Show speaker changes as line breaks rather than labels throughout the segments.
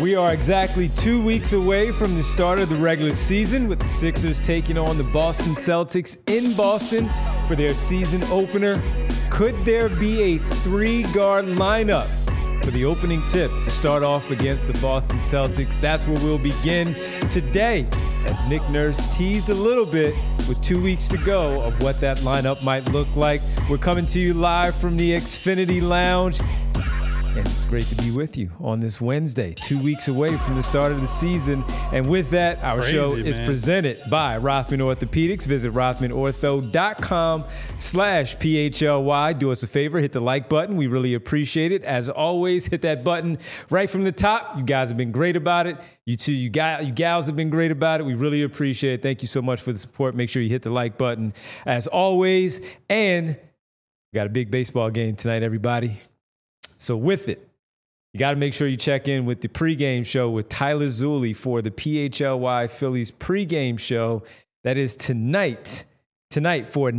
We are exactly 2 weeks away from the start of the regular season, with the Sixers taking on the Boston Celtics in Boston for their season opener. Could there be a three-guard lineup for the opening tip to start off against the Boston Celtics? That's where we'll begin today, as Nick Nurse teased a little bit with 2 weeks to go of what that lineup might look like. We're coming to you live from the Xfinity Lounge. And it's great to be with you on this Wednesday, 2 weeks away from the start of the season. And with that, our show is presented by Rothman Orthopedics. Visit rothmanortho.com/PHLY. Do us a favor, hit the like button. We really appreciate it. As always, hit that button right from the top. You guys have been great about it. You too, you gals have been great about it. We really appreciate it. Thank you so much for the support. Make sure you hit the like button as always. And we got a big baseball game tonight, everybody. So with it, you got to make sure you check in with the pregame show with Tyler Zulli for the PHLY Phillies pregame show. That is tonight for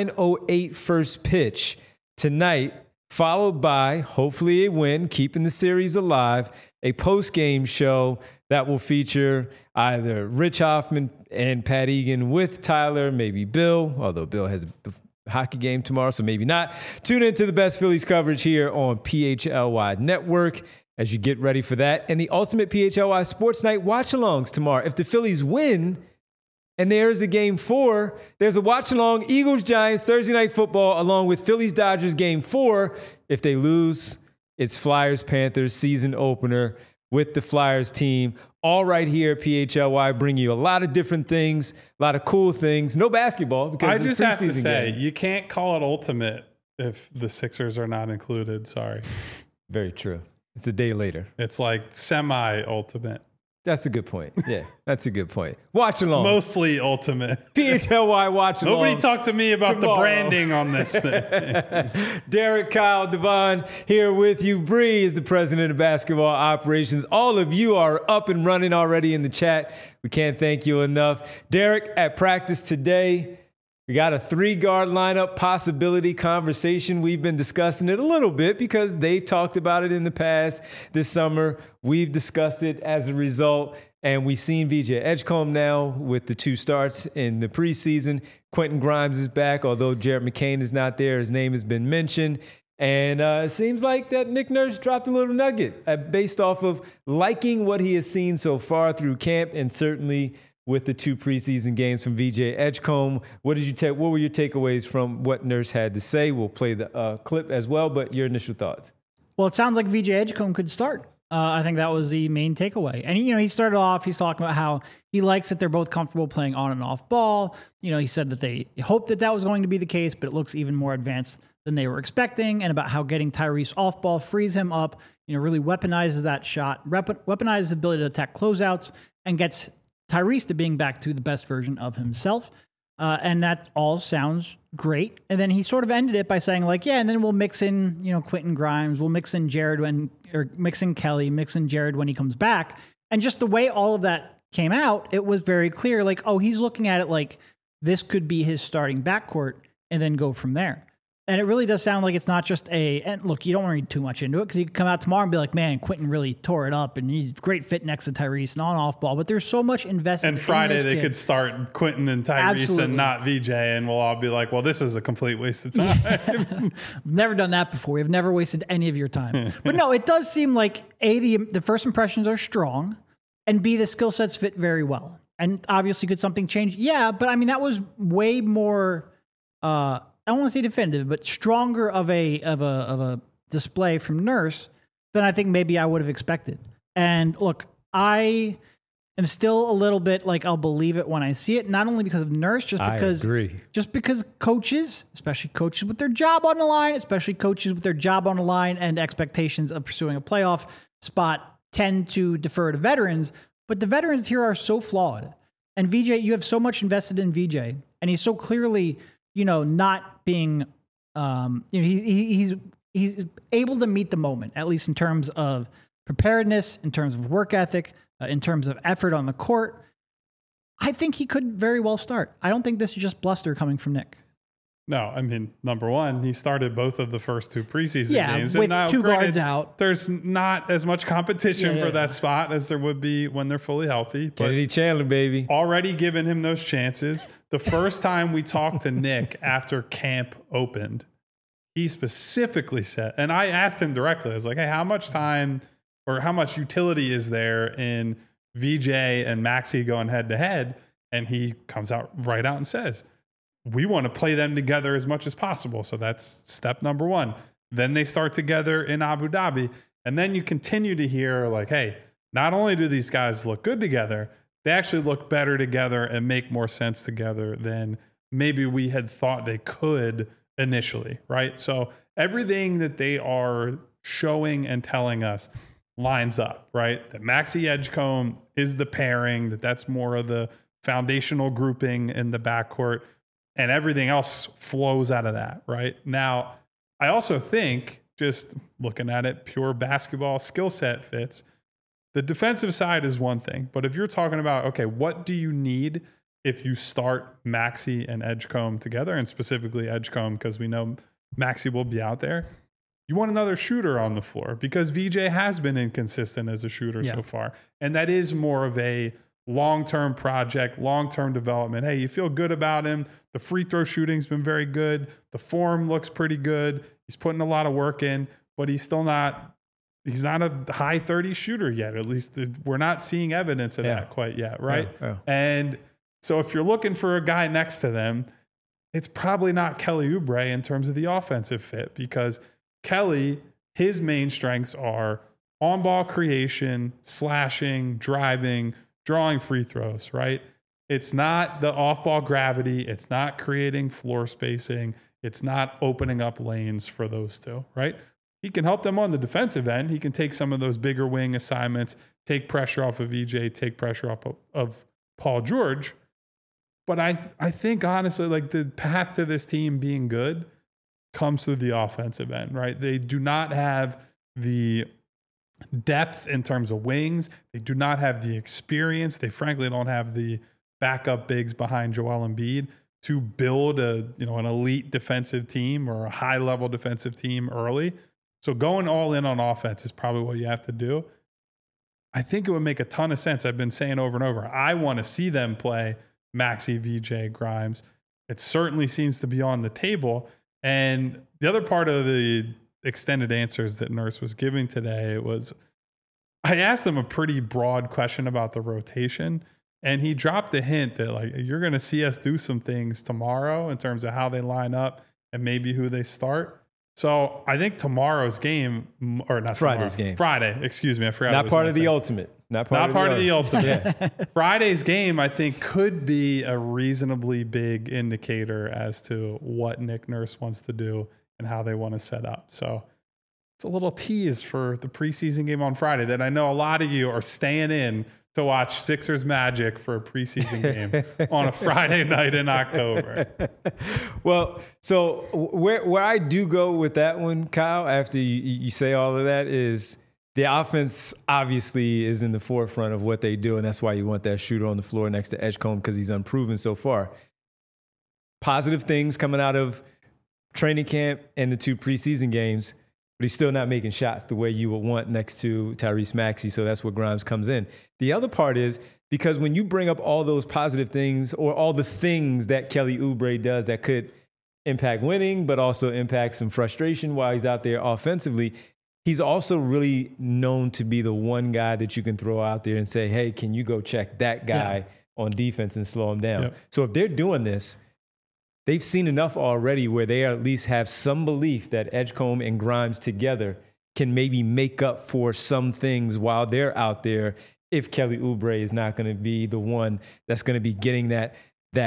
9:08 first pitch tonight, followed by, hopefully a win, keeping the series alive, a postgame show that will feature either Rich Hoffman and Pat Egan with Tyler, maybe Bill, although Bill has hockey game tomorrow, so maybe not. Tune into the best Phillies coverage here on PHLY Network as you get ready for that. And the ultimate PHLY Sports Night watch-alongs tomorrow. If the Phillies win and there's a Game 4, there's a watch-along Eagles-Giants Thursday Night Football along with Phillies-Dodgers Game 4. If they lose, it's Flyers-Panthers season opener with the Flyers team. All right here at PHLY, bring you a lot of different things, a lot of cool things. No basketball because
I just have to say,
game.
You can't call it ultimate if the Sixers are not included. Sorry.
Very true. It's a day later.
It's like semi-ultimate.
That's a good point. Yeah, that's a good point. Watch along.
Mostly ultimate.
PHLY watch along.
Nobody talked to me about
tomorrow.
the branding on this thing.
Derek, Kyle, Devon here with you. Bree is the president of basketball operations. All of you are up and running already in the chat. We can't thank you enough. Derek, at practice today, we got a three-guard lineup possibility conversation. We've been discussing it a little bit because they've talked about it in the past this summer. We've discussed it as a result, and we've seen VJ Edgecombe now with the 2 starts in the preseason. Quentin Grimes is back, although Jared McCain is not there. His name has been mentioned. And it seems like that Nick Nurse dropped a little nugget based off of liking what he has seen so far through camp, and certainly with the 2 preseason games from VJ Edgecombe. What did you take? What were your takeaways from what Nurse had to say? We'll play the clip as well, but your initial thoughts.
Well, it sounds like VJ Edgecombe could start. I think that was the main takeaway. And, he started off, he's talking about how he likes that they're both comfortable playing on and off ball. He said that they hoped that was going to be the case, but it looks even more advanced than they were expecting, and about how getting Tyrese off ball frees him up, really weaponizes that shot, weaponizes the ability to attack closeouts, and gets Tyrese to being back to the best version of himself. And that all sounds great. And then he sort of ended it by saying and then we'll mix in, Quentin Grimes, we'll mix in mix in Kelly, mix in Jared when he comes back. And just the way all of that came out, it was very clear, he's looking at it like this could be his starting backcourt and then go from there. And it really does sound like it's not just and look, you don't want to read too much into it because you could come out tomorrow and be like, man, Quentin really tore it up and he's a great fit next to Tyrese and on off ball. But there's so much invested in this kid. And
Friday they could start Quentin and Tyrese Absolutely. And not VJ, and we'll all be like, well, this is a complete waste of time.
We've never done that before. We've never wasted any of your time. But no, it does seem like A, the first impressions are strong, and B, the skill sets fit very well. And obviously could something change? Yeah, but I mean, that was way more I don't want to say definitive, but stronger of a display from Nurse than I think maybe I would have expected. And look, I am still a little bit I'll believe it when I see it, not only because of Nurse, just because coaches, especially coaches with their job on the line, and expectations of pursuing a playoff spot tend to defer to veterans, but the veterans here are so flawed. And VJ, you have so much invested in VJ, and he's so clearly not being, he's able to meet the moment, at least in terms of preparedness, in terms of work ethic, in terms of effort on the court. I think he could very well start. I don't think this is just bluster coming from Nick.
No, I mean, number one, he started both of the first 2 preseason games.
With
and now,
2 guards out.
There's not as much competition for that spot as there would be when they're fully healthy. But
Kennedy Chandler, baby.
Already given him those chances. The first time we talked to Nick after camp opened, he specifically said, and I asked him directly, I was like, hey, how much time or how much utility is there in VJ and Maxey going head to head? And he comes out and says, we want to play them together as much as possible. So that's step number 1. Then they start together in Abu Dhabi. And then you continue to hear like, hey, not only do these guys look good together, they actually look better together and make more sense together than maybe we had thought they could initially, right? So everything that they are showing and telling us lines up, right? That Maxey Edgecombe is the pairing, that's more of the foundational grouping in the backcourt. And everything else flows out of that, right? Now, I also think, just looking at it, pure basketball skill set fits. The defensive side is one thing, but if you're talking about, okay, what do you need if you start Maxey and Edgecombe together, and specifically Edgecombe, because we know Maxey will be out there, you want another shooter on the floor because VJ has been inconsistent as a shooter so far. And that is more of a long-term project, long-term development. Hey, you feel good about him. The free throw shooting's been very good. The form looks pretty good. He's putting a lot of work in, but he's not a high 30 shooter yet. At least we're not seeing evidence of that quite yet, right? Yeah. And so if you're looking for a guy next to them, it's probably not Kelly Oubre in terms of the offensive fit, because Kelly, his main strengths are on-ball creation, slashing, driving, drawing free throws, right? It's not the off-ball gravity. It's not creating floor spacing. It's not opening up lanes for those two, right? He can help them on the defensive end. He can take some of those bigger wing assignments, take pressure off of VJ, take pressure off of Paul George. But I think, honestly, like the path to this team being good comes through the offensive end, right? They do not have the depth in terms of wings. They do not have the experience. They frankly don't have the backup bigs behind Joel Embiid to build an elite defensive team or a high level defensive team early. So going all in on offense is probably what you have to do. I think it would make a ton of sense. I've been saying over and over, I want to see them play Maxey, VJ, Grimes. It certainly seems to be on the table. And the other part of the extended answers that Nurse was giving today was, I asked him a pretty broad question about the rotation, and he dropped the hint that like, you're going to see us do some things tomorrow in terms of how they line up and maybe who they start. So I think tomorrow's game, or not
Friday's game.
Friday, excuse me. I forgot.
Not part of the ultimate. Not part of the ultimate.
Yeah. Friday's game, I think, could be a reasonably big indicator as to what Nick Nurse wants to do and how they want to set up. So it's a little tease for the preseason game on Friday that I know a lot of you are staying in to watch Sixers Magic for a preseason game on a Friday night in October.
Well, so where I do go with that one, Kyle, after you say all of that, is the offense obviously is in the forefront of what they do, and that's why you want that shooter on the floor next to Edgecombe, because he's unproven so far. Positive things coming out of training camp and the 2 preseason games, but he's still not making shots the way you would want next to Tyrese Maxey, so that's where Grimes comes in. The other part is, because when you bring up all those positive things or all the things that Kelly Oubre does that could impact winning, but also impact some frustration while he's out there offensively, he's also really known to be the one guy that you can throw out there and say, hey, can you go check that guy on defense and slow him down? Yep. So if they're doing this, they've seen enough already where they at least have some belief that Edgecombe and Grimes together can maybe make up for some things while they're out there, if Kelly Oubre is not going to be the one that's going to be getting that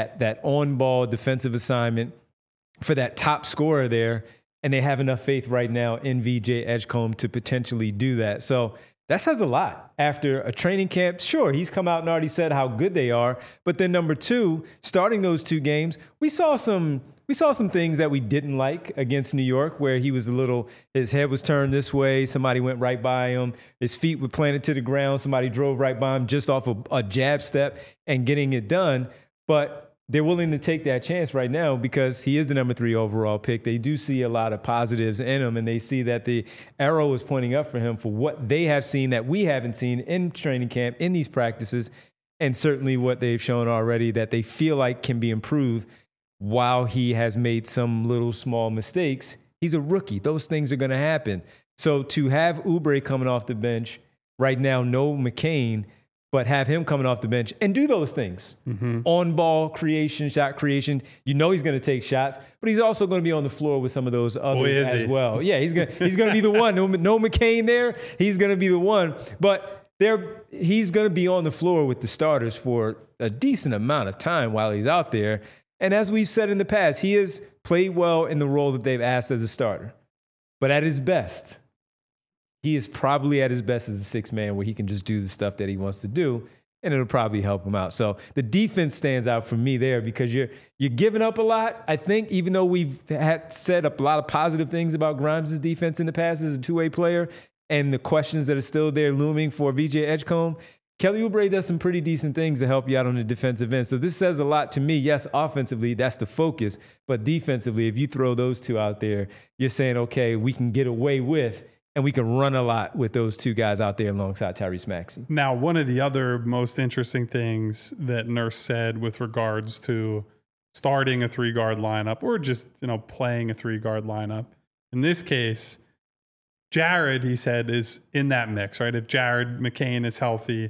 on-ball defensive assignment for that top scorer there. And they have enough faith right now in VJ Edgecombe to potentially do that. So that says a lot after a training camp. Sure, he's come out and already said how good they are. But then number 2, starting those 2 games, we saw some things that we didn't like against New York, where he was his head was turned this way. Somebody went right by him. His feet were planted to the ground. Somebody drove right by him just off a jab step and getting it done. But they're willing to take that chance right now because he is the number 3 overall pick. They do see a lot of positives in him, and they see that the arrow is pointing up for him for what they have seen that we haven't seen in training camp, in these practices, and certainly what they've shown already that they feel like can be improved. While he has made some little small mistakes, he's a rookie. Those things are going to happen. So to have Oubre coming off the bench right now, no McCain, but have him coming off the bench and do those things. On ball creation, shot creation. You know he's going to take shots, but he's also going to be on the floor with some of those others as well. Yeah, he's going to be the one. No McCain there. He's going to be the one. But he's going to be on the floor with the starters for a decent amount of time while he's out there. And as we've said in the past, he has played well in the role that they've asked as a starter. But at his best, he is probably at his best as a 6 man where he can just do the stuff that he wants to do, and it'll probably help him out. So the defense stands out for me there because you're giving up a lot. I think even though we've had said a lot of positive things about Grimes' defense in the past as a 2-way player and the questions that are still there looming for VJ Edgecombe, Kelly Oubre does some pretty decent things to help you out on the defensive end. So this says a lot to me. Yes, offensively, that's the focus. But defensively, if you throw those two out there, you're saying, okay, we can get away with and we can run a lot with those 2 guys out there alongside Tyrese Maxey.
Now, one of the other most interesting things that Nurse said with regards to starting a 3-guard lineup or just, playing a 3-guard lineup, in this case, Jared, he said, is in that mix, right? If Jared McCain is healthy,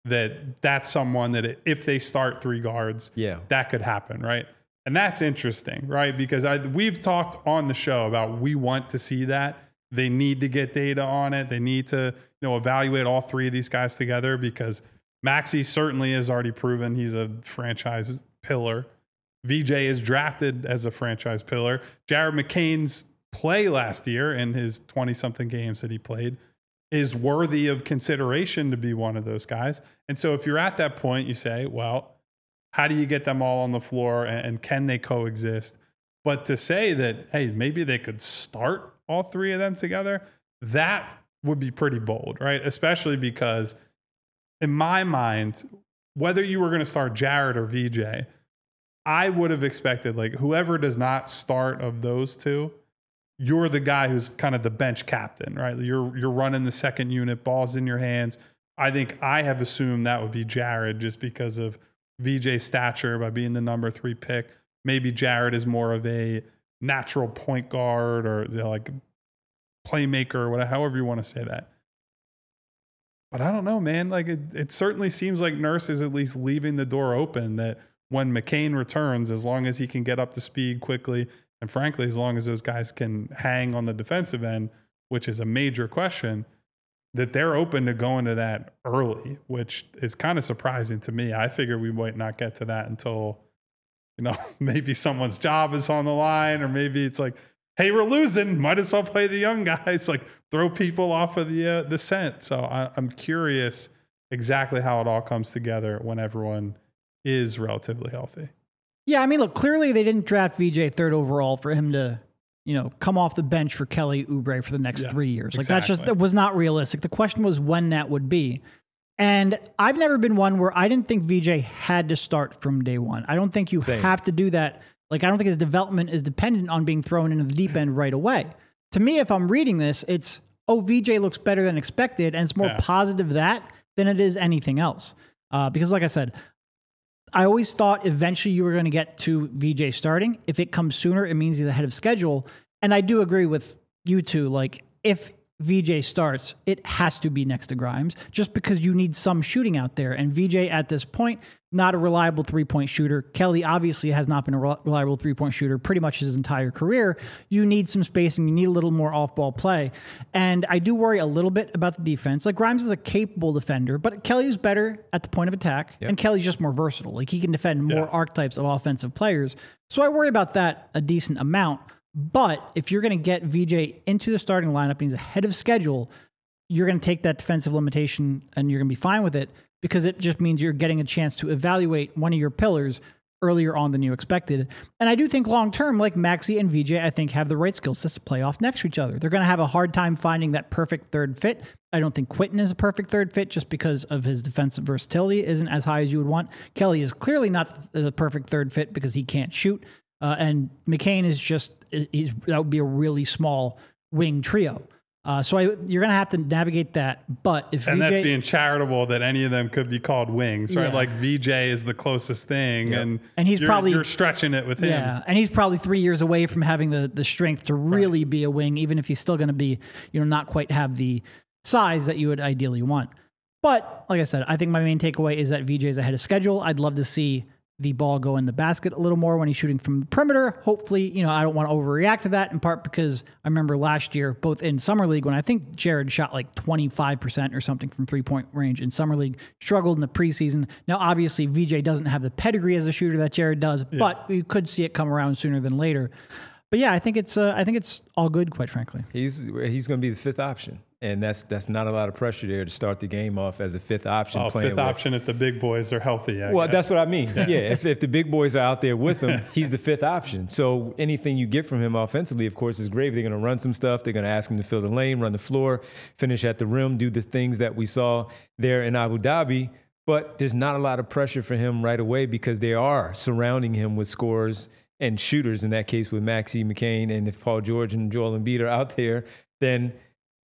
that's someone that if they start 3 guards, that could happen, right? And that's interesting, right? Because we've talked on the show about we want to see that. They need to get data on it. They need to, evaluate all 3 of these guys together because Maxey certainly has already proven he's a franchise pillar. VJ is drafted as a franchise pillar. Jared McCain's play last year in his 20-something games that he played is worthy of consideration to be one of those guys. And so if you're at that point, you say, well, how do you get them all on the floor and can they coexist? But to say that, hey, maybe they could start all 3 of them together, that would be pretty bold, right? Especially because in my mind, whether you were going to start Jared or VJ, I would have expected like whoever does not start of those 2, you're the guy who's kind of the bench captain, right? You're running the second unit, balls in your hands. I think I have assumed that would be Jared just because of VJ's stature by being the number 3 pick. Maybe Jared is more of a natural point guard or like playmaker or whatever, however you want to say that. But I don't know, man. Like it certainly seems like Nurse is at least leaving the door open that when McCain returns, as long as he can get up to speed quickly, and frankly, as long as those guys can hang on the defensive end, which is a major question, that they're open to going to that early, which is kind of surprising to me. I figured we might not get to that until, maybe someone's job is on the line, or maybe it's like, hey, we're losing, might as well play the young guys, like throw people off of the scent. So I'm curious exactly how it all comes together when everyone is relatively healthy.
Yeah, I mean, look, clearly they didn't draft VJ 3rd overall for him to, come off the bench for Kelly Oubre for the next 3 years. Like that was not realistic. The question was when that would be. And I've never been one where I didn't think VJ had to start from day one. I don't think you have to do that. Like, I don't think his development is dependent on being thrown into the deep end right away. To me, if I'm reading this, it's, VJ looks better than expected, and it's more positive that than it is anything else. Because like I said, I always thought eventually you were going to get to VJ starting. If it comes sooner, it means he's ahead of schedule. And I do agree with you two. Like, if VJ starts, it has to be next to Grimes just because you need some shooting out there. And VJ at this point, not a reliable 3-point shooter. Kelly obviously has not been a reliable 3-point shooter pretty much his entire career. You need some spacing. You need a little more off-ball play. And I do worry a little bit about the defense. Like, Grimes is a capable defender, but Kelly's better at the point of attack. Yep. And Kelly's just more versatile. Like, he can defend more archetypes of offensive players. So I worry about that a decent amount. But if you're going to get VJ into the starting lineup and he's ahead of schedule, you're going to take that defensive limitation and you're going to be fine with it because it just means you're getting a chance to evaluate one of your pillars earlier on than you expected. And I do think long-term, like Maxey and VJ, I think have the right skill sets to play off next to each other. They're going to have a hard time finding that perfect third fit. I don't think Quentin is a perfect third fit just because of his defensive versatility isn't as high as you would want. Kelly is clearly not the perfect third fit because he can't shoot. And McCain is that would be a really small wing trio. So you're going to have to navigate that. But if
and
VJ,
that's being charitable that any of them could be called wings, right?
Yeah.
Like VJ is the closest thing, and
he's
you're stretching it with him.
Yeah, and he's probably 3 years away from having the strength to really be a wing, even if he's still going to be, not quite have the size that you would ideally want. But like I said, I think my main takeaway is that VJ is ahead of schedule. I'd love to see the ball go in the basket a little more when he's shooting from the perimeter. Hopefully, I don't want to overreact to that, in part because I remember last year, both in Summer League, when I think Jared shot like 25% or something from three-point range in Summer League, struggled in the preseason. Now, obviously, VJ doesn't have the pedigree as a shooter that Jared does, but you could see it come around sooner than later. But yeah, I think it's all good, quite frankly.
He's going to be the fifth option. And that's not a lot of pressure there to start the game off as a fifth option.
Fifth option if the big boys are healthy. I guess.
That's what I mean. Yeah, if the big boys are out there with him, he's the fifth option. So anything you get from him offensively, of course, is great. They're going to run some stuff. They're going to ask him to fill the lane, run the floor, finish at the rim, do the things that we saw there in Abu Dhabi. But there's not a lot of pressure for him right away because they are surrounding him with scorers and shooters, in that case with Maxey, McCain, and if Paul George and Joel Embiid are out there, then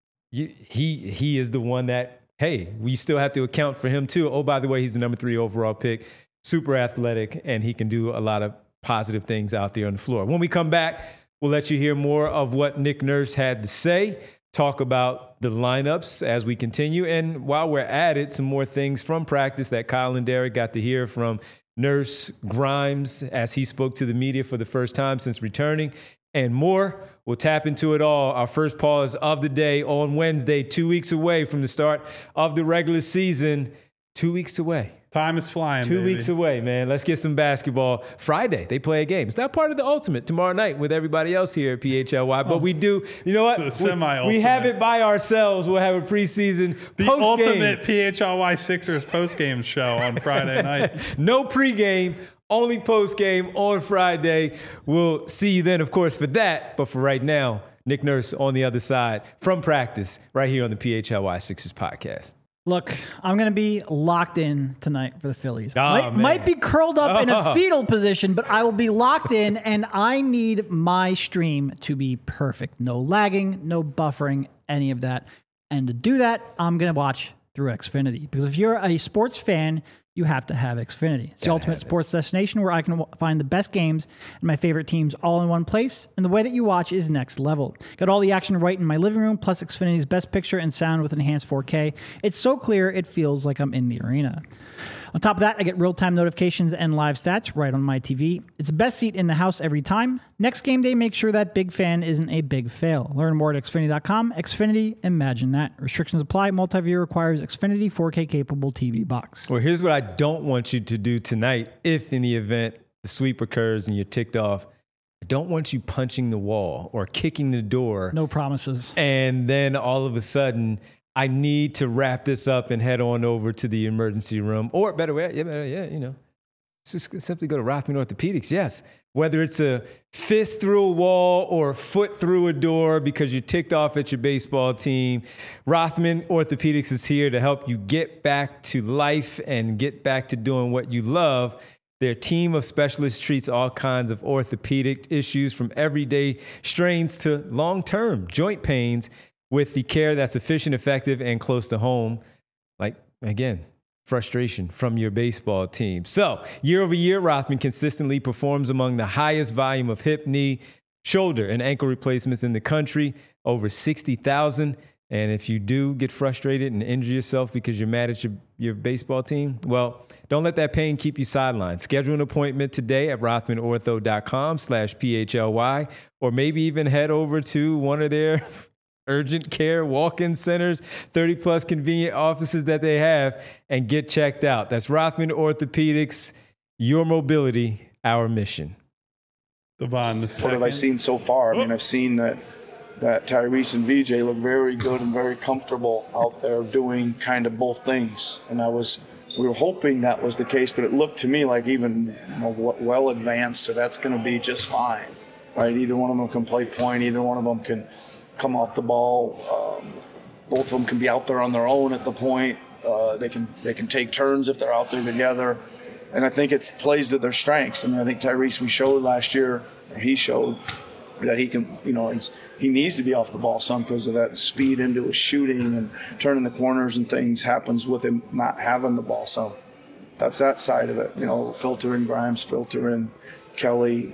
he is the one that, hey, we still have to account for him too. Oh, by the way, he's the number 3 overall pick, super athletic, and he can do a lot of positive things out there on the floor. When we come back, we'll let you hear more of what Nick Nurse had to say, talk about the lineups as we continue, and while we're at it, some more things from practice that Kyle and Derek got to hear from Nurse Grimes as he spoke to the media for the first time since returning, and more. We'll tap into it all. Our first pause of the day on Wednesday, 2 weeks away from the start of the regular season. 2 weeks away.
Time is flying,
Two weeks away, man. Let's get some basketball. Friday, they play a game. It's not part of the ultimate tomorrow night with everybody else here at PHLY, but we do. You know what?
The semi-ultimate.
We have it by ourselves. We'll have a preseason
the
post-game.
ultimate PHLY Sixers postgame show on Friday night.
No pregame. Only post-game on Friday. We'll see you then, of course, for that. But for right now, Nick Nurse on the other side from practice right here on the PHLY Sixers podcast.
Look, I'm going to be locked in tonight for the Phillies.
Oh,
might be curled up in a fetal position, but I will be locked in, and I need my stream to be perfect. No lagging, no buffering, any of that. And to do that, I'm going to watch through Xfinity. Because if you're a sports fan, you have to have Xfinity. It's the ultimate sports destination where I can find the best games and my favorite teams all in one place. And the way that you watch is next level. Got all the action right in my living room, plus Xfinity's best picture and sound with enhanced 4K. It's so clear, it feels like I'm in the arena. On top of that, I get real-time notifications and live stats right on my TV. It's the best seat in the house every time. Next game day, make sure that big fan isn't a big fail. Learn more at Xfinity.com. Xfinity, imagine that. Restrictions apply. Multi-view requires Xfinity 4K-capable TV box.
Well, here's what I don't want you to do tonight. If in the event the sweep occurs and you're ticked off, I don't want you punching the wall or kicking the door.
No promises.
And then all of a sudden, I need to wrap this up and head on over to the emergency room. Or better way, just simply go to Rothman Orthopedics. Yes, whether it's a fist through a wall or a foot through a door because you're ticked off at your baseball team, Rothman Orthopedics is here to help you get back to life and get back to doing what you love. Their team of specialists treats all kinds of orthopedic issues from everyday strains to long-term joint pains with the care that's efficient, effective, and close to home. Like, again, frustration from your baseball team. So, year over year, Rothman consistently performs among the highest volume of hip, knee, shoulder, and ankle replacements in the country, over 60,000. And if you do get frustrated and injure yourself because you're mad at your baseball team, well, don't let that pain keep you sidelined. Schedule an appointment today at rothmanortho.com/PHLY, or maybe even head over to one of their urgent care walk-in centers, 30-plus convenient offices that they have, and get checked out. That's Rothman Orthopedics, your mobility, our mission.
Devon,
what have I seen so far? I mean, I've seen that Tyrese and VJ look very good and very comfortable out there doing kind of both things. And I was we were hoping that was the case, but it looked to me like even well advanced, so that's going to be just fine, right? Either one of them can play point, either one of them can come off the ball. Both of them can be out there on their own at the point. They can take turns if they're out there together, and I think it plays to their strengths. And I think Tyrese, we showed last year, or he showed that he can, he needs to be off the ball some because of that speed into his shooting and turning the corners and things happens with him not having the ball. So that's that side of it. Filter in Grimes, filter in Kelly.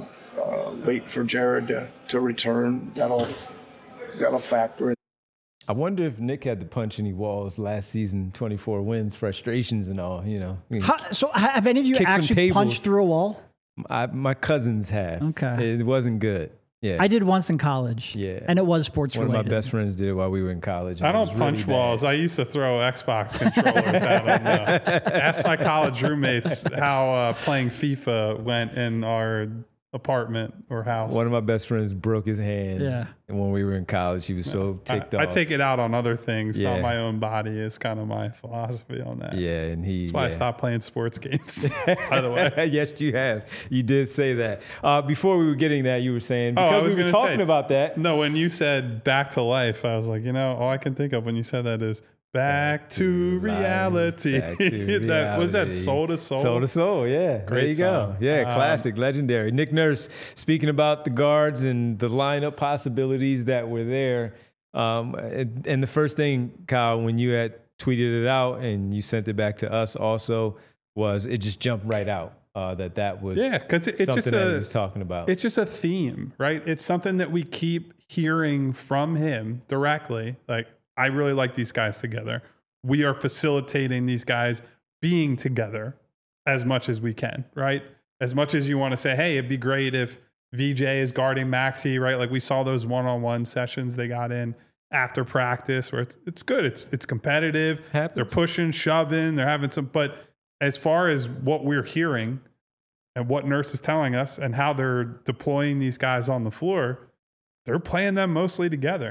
Wait for Jared to return. That'll factor in.
I wonder if Nick had to punch any walls last season, 24 wins, frustrations and all,
So have any of you actually punched through a wall?
My cousins have.
Okay.
It wasn't good. Yeah.
I did once in college.
Yeah.
And it was sports related.
One of my best friends did it while we were in college.
I don't punch walls. I used to throw Xbox controllers at them. Ask my college roommates how playing FIFA went in our apartment or house.
One of my best friends broke his hand. Yeah. And when we were in college, he was so ticked off.
I take it out on other things, not my own body is kind of my philosophy on that.
Yeah. And
that's why I stopped playing sports games, by the way.
Yes, you have. You did say that. Before we were getting that, you were saying, because we were talking about that.
No, when you said back to life, I was like, all I can think of when you said that is back to reality.
Back to reality.
Was that Soul to Soul?
Soul to Soul, yeah.
Great
there you
song.
go. Yeah, classic, legendary. Nick Nurse, speaking about the guards and the lineup possibilities that were there. And the first thing, Kyle, when you had tweeted it out and you sent it back to us also, was it just jumped right out. That was
because it's
something
just
that he was talking about.
It's just a theme, right? It's something that we keep hearing from him directly. Like, I really like these guys together. We are facilitating these guys being together as much as we can, right? As much as you want to say, hey, it'd be great if VJ is guarding Maxey, right? Like we saw those one-on-one sessions they got in after practice where it's good. It's competitive.
Happens.
They're pushing, shoving, they're having some, but as far as what we're hearing and what Nurse is telling us and how they're deploying these guys on the floor, they're playing them mostly together.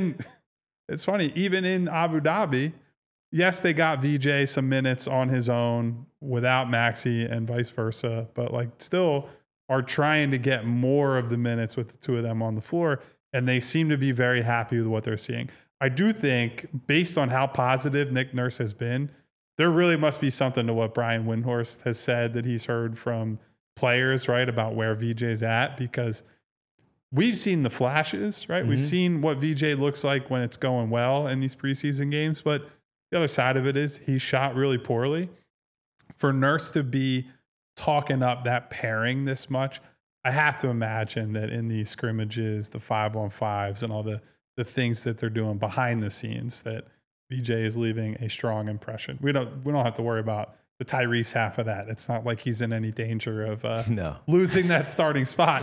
It's funny, even in Abu Dhabi, yes, they got VJ some minutes on his own without Maxey and vice versa, but still are trying to get more of the minutes with the two of them on the floor, and they seem to be very happy with what they're seeing. I do think, based on how positive Nick Nurse has been, there really must be something to what Brian Windhorst has said that he's heard from players, right, about where VJ's at, because we've seen the flashes, right? Mm-hmm. We've seen what VJ looks like when it's going well in these preseason games, but the other side of it is he shot really poorly. For Nurse to be talking up that pairing this much, I have to imagine that in these scrimmages, the 5-on-5s and all the things that they're doing behind the scenes, that VJ is leaving a strong impression. We don't have to worry about the Tyrese half of that. It's not like he's in any danger of losing that starting spot.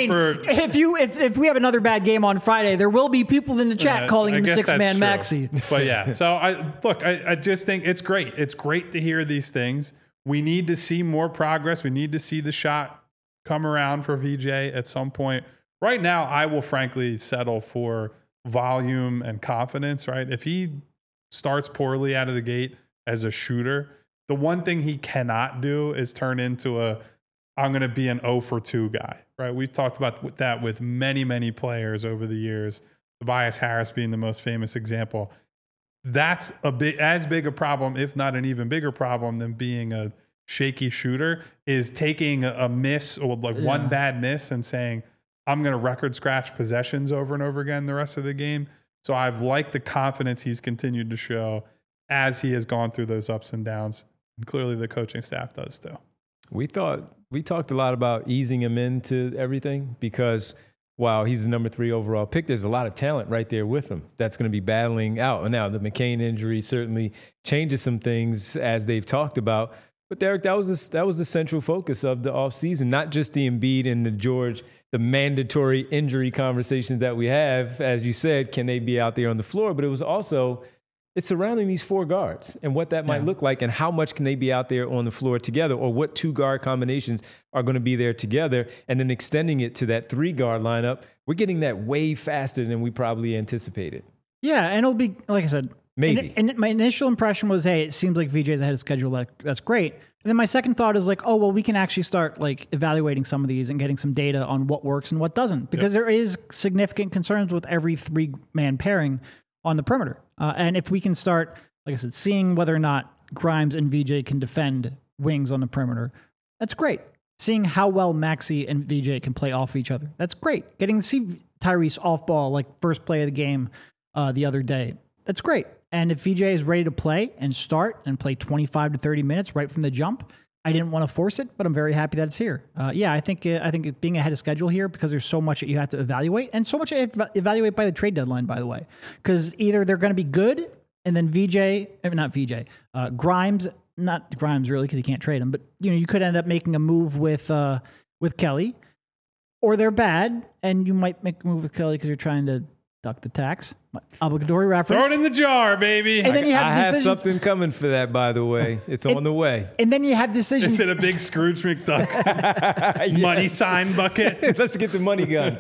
If we have another bad game on Friday, there will be people in the chat calling him six-man Maxey.
But yeah, so I just think it's great. It's great to hear these things. We need to see more progress. We need to see the shot come around for VJ at some point. Right now, I will frankly settle for volume and confidence, right? If he starts poorly out of the gate as a shooter, the one thing he cannot do is turn into I'm going to be an 0 for 2 guy, right? We've talked about that with many, many players over the years, Tobias Harris being the most famous example. That's as big a problem, if not an even bigger problem than being a shaky shooter, is taking a miss or one bad miss and saying, I'm going to record scratch possessions over and over again the rest of the game. So I've liked the confidence he's continued to show as he has gone through those ups and downs. And clearly the coaching staff does too.
We talked a lot about easing him into everything because while he's the number 3 overall pick, there's a lot of talent right there with him that's going to be battling out. Now, the McCain injury certainly changes some things as they've talked about. But Derek, that was the central focus of the offseason, not just the Embiid and the George, the mandatory injury conversations that we have. As you said, can they be out there on the floor? But it was also it's surrounding these 4 guards and what that might look like and how much can they be out there on the floor together, or what 2 guard combinations are going to be there together, and then extending it to that 3 guard lineup. We're getting that way faster than we probably anticipated.
Yeah, and it'll be, like I said,
Maybe.
And my initial impression was, hey, it seems like VJ's ahead of schedule. That's great. And then my second thought is like, oh, well, we can actually start like evaluating some of these and getting some data on what works and what doesn't, because there is significant concerns with every 3-man pairing on the perimeter. And if we can start, like I said, seeing whether or not Grimes and VJ can defend wings on the perimeter, that's great. Seeing how well Maxey and VJ can play off each other, that's great. Getting to see Tyrese off ball, like first play of the game the other day, that's great. And if VJ is ready to play and start and play 25 to 30 minutes right from the jump, I didn't want to force it, but I'm very happy that it's here. I think it being ahead of schedule here, because there's so much that you have to evaluate, and so much to evaluate by the trade deadline, by the way, because either they're going to be good, and then Grimes, not Grimes really, because you can't trade him, but you could end up making a move with Kelly, or they're bad, and you might make a move with Kelly because you're trying to duck the tax. Obligatory reference.
Throw it in the jar, baby.
And then you have
I have something coming for that, by the way. It's on the way.
And then you have decisions.
Is it a big Scrooge McDuck money sign bucket?
Let's get the money gun.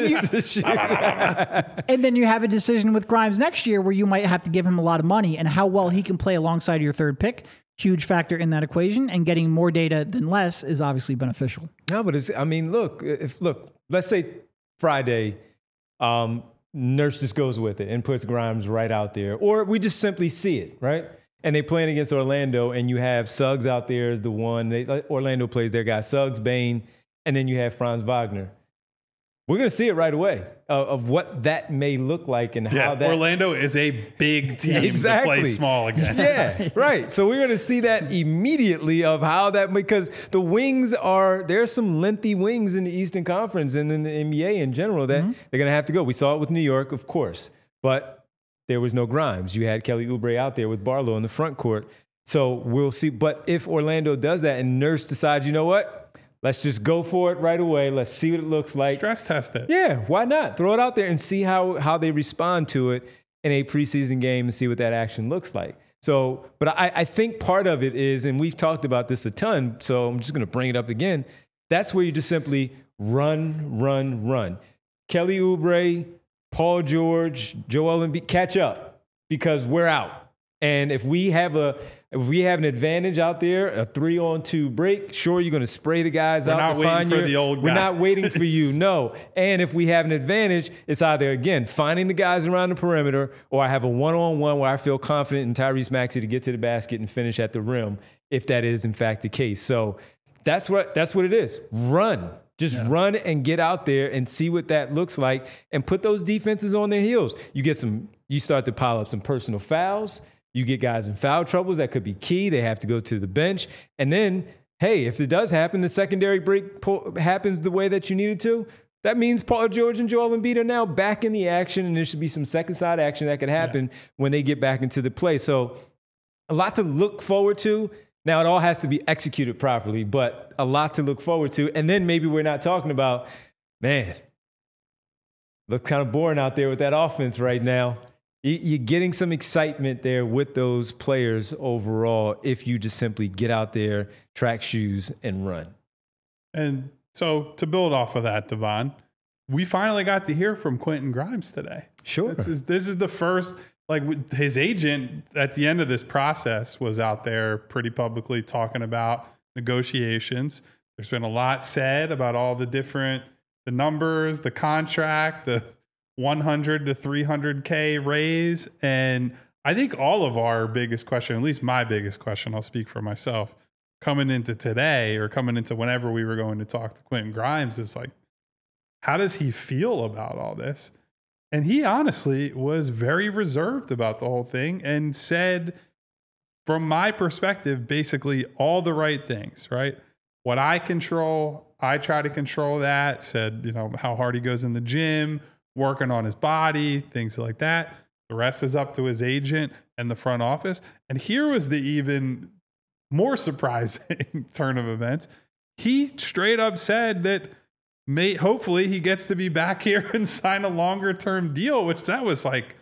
And then you have a decision with Grimes next year where you might have to give him a lot of money, and how well he can play alongside your third pick. Huge factor in that equation, and getting more data than less is obviously beneficial.
No, but look, let's say Friday, Nurse just goes with it and puts Grimes right out there, or we just simply see it, right? And they playing against Orlando, and you have Suggs out there as the one. Orlando plays their guy Suggs, Bane, and then you have Franz Wagner. We're going to see it right away of what that may look like and how that.
Orlando is a big team to play small again.
Yeah, right. So we're going to see that immediately of how that, because the wings there's some lengthy wings in the Eastern Conference and in the NBA in general that they're going to have to go. We saw it with New York, of course, but there was no Grimes. You had Kelly Oubre out there with Barlow in the front court. So we'll see. But if Orlando does that and Nurse decides, you know what? Let's just go for it right away. Let's see what it looks like.
Stress test it.
Yeah, why not? Throw it out there and see how they respond to it in a preseason game and see what that action looks like. So, but I think part of it is, and we've talked about this a ton, so I'm just going to bring it up again. That's where you just simply run. Kelly Oubre, Paul George, Joel Embiid, catch up, because we're out. And if we have an advantage out there, a 3-on-2 break, sure, you're going to spray the guys out.
We're not waiting for the old guys.
We're not waiting for you, no. And if we have an advantage, it's either, again, finding the guys around the perimeter, or I have a one-on-one where I feel confident in Tyrese Maxey to get to the basket and finish at the rim, if that is, in fact, the case. So that's what it is. Run. Just run and get out there and see what that looks like, and put those defenses on their heels. You start to pile up some personal fouls. You get guys in foul troubles. That could be key. They have to go to the bench. And then, hey, if it does happen, the secondary break happens the way that you need it to, that means Paul George and Joel Embiid are now back in the action, and there should be some second side action that could happen when they get back into the play. So a lot to look forward to. Now, it all has to be executed properly, but a lot to look forward to. And then maybe we're not talking about, man, looks kind of boring out there with that offense right now. You're getting some excitement there with those players overall if you just simply get out there, track shoes, and run.
And so to build off of that, Devon, we finally got to hear from Quentin Grimes today.
Sure.
This is the first, like, his agent at the end of this process was out there pretty publicly talking about negotiations. There's been a lot said about all the numbers, the contract, the 100 to 300K raise. And I think all of our biggest question, at least my biggest question, I'll speak for myself, coming into today or coming into whenever we were going to talk to Quentin Grimes, is like, how does he feel about all this? And he honestly was very reserved about the whole thing and said, from my perspective, basically all the right things, right? What I control, I try to control that. Said, how hard he goes in the gym, working on his body, things like that. The rest is up to his agent and the front office. And here was the even more surprising turn of events. He straight up said that hopefully he gets to be back here and sign a longer term deal, which that was like,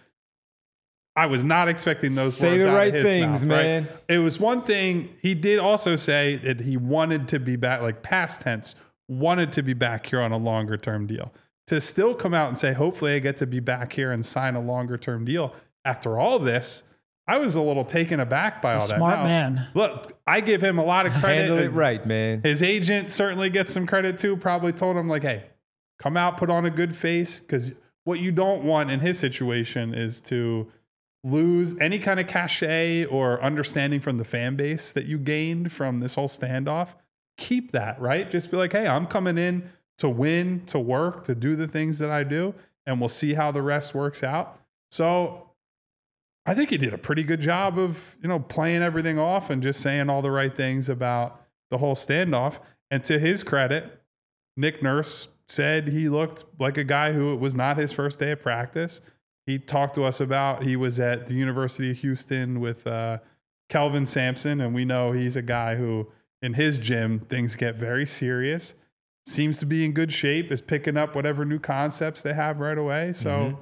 I was not expecting those
say
words
the
out
right
of his
things,
mouth,
man.
Right? It was one thing. He did also say that he wanted to be back, like past tense, wanted to be back here on a longer term deal. To still come out and say, hopefully I get to be back here and sign a longer term deal after all this, I was a little taken aback by all that.
Smart man.
Look, I give him a lot of credit.
Handle it right, man.
His agent certainly gets some credit too. Probably told him like, hey, come out, put on a good face. Because what you don't want in his situation is to lose any kind of cachet or understanding from the fan base that you gained from this whole standoff. Keep that, right? Just be like, hey, I'm coming in to win, to work, to do the things that I do, and we'll see how the rest works out. So I think he did a pretty good job of, playing everything off and just saying all the right things about the whole standoff. And to his credit, Nick Nurse said he looked like a guy who it was not his first day of practice. He talked to us about he was at the University of Houston with Kelvin Sampson, and we know he's a guy who in his gym things get very serious. Seems to be in good shape, is picking up whatever new concepts they have right away. So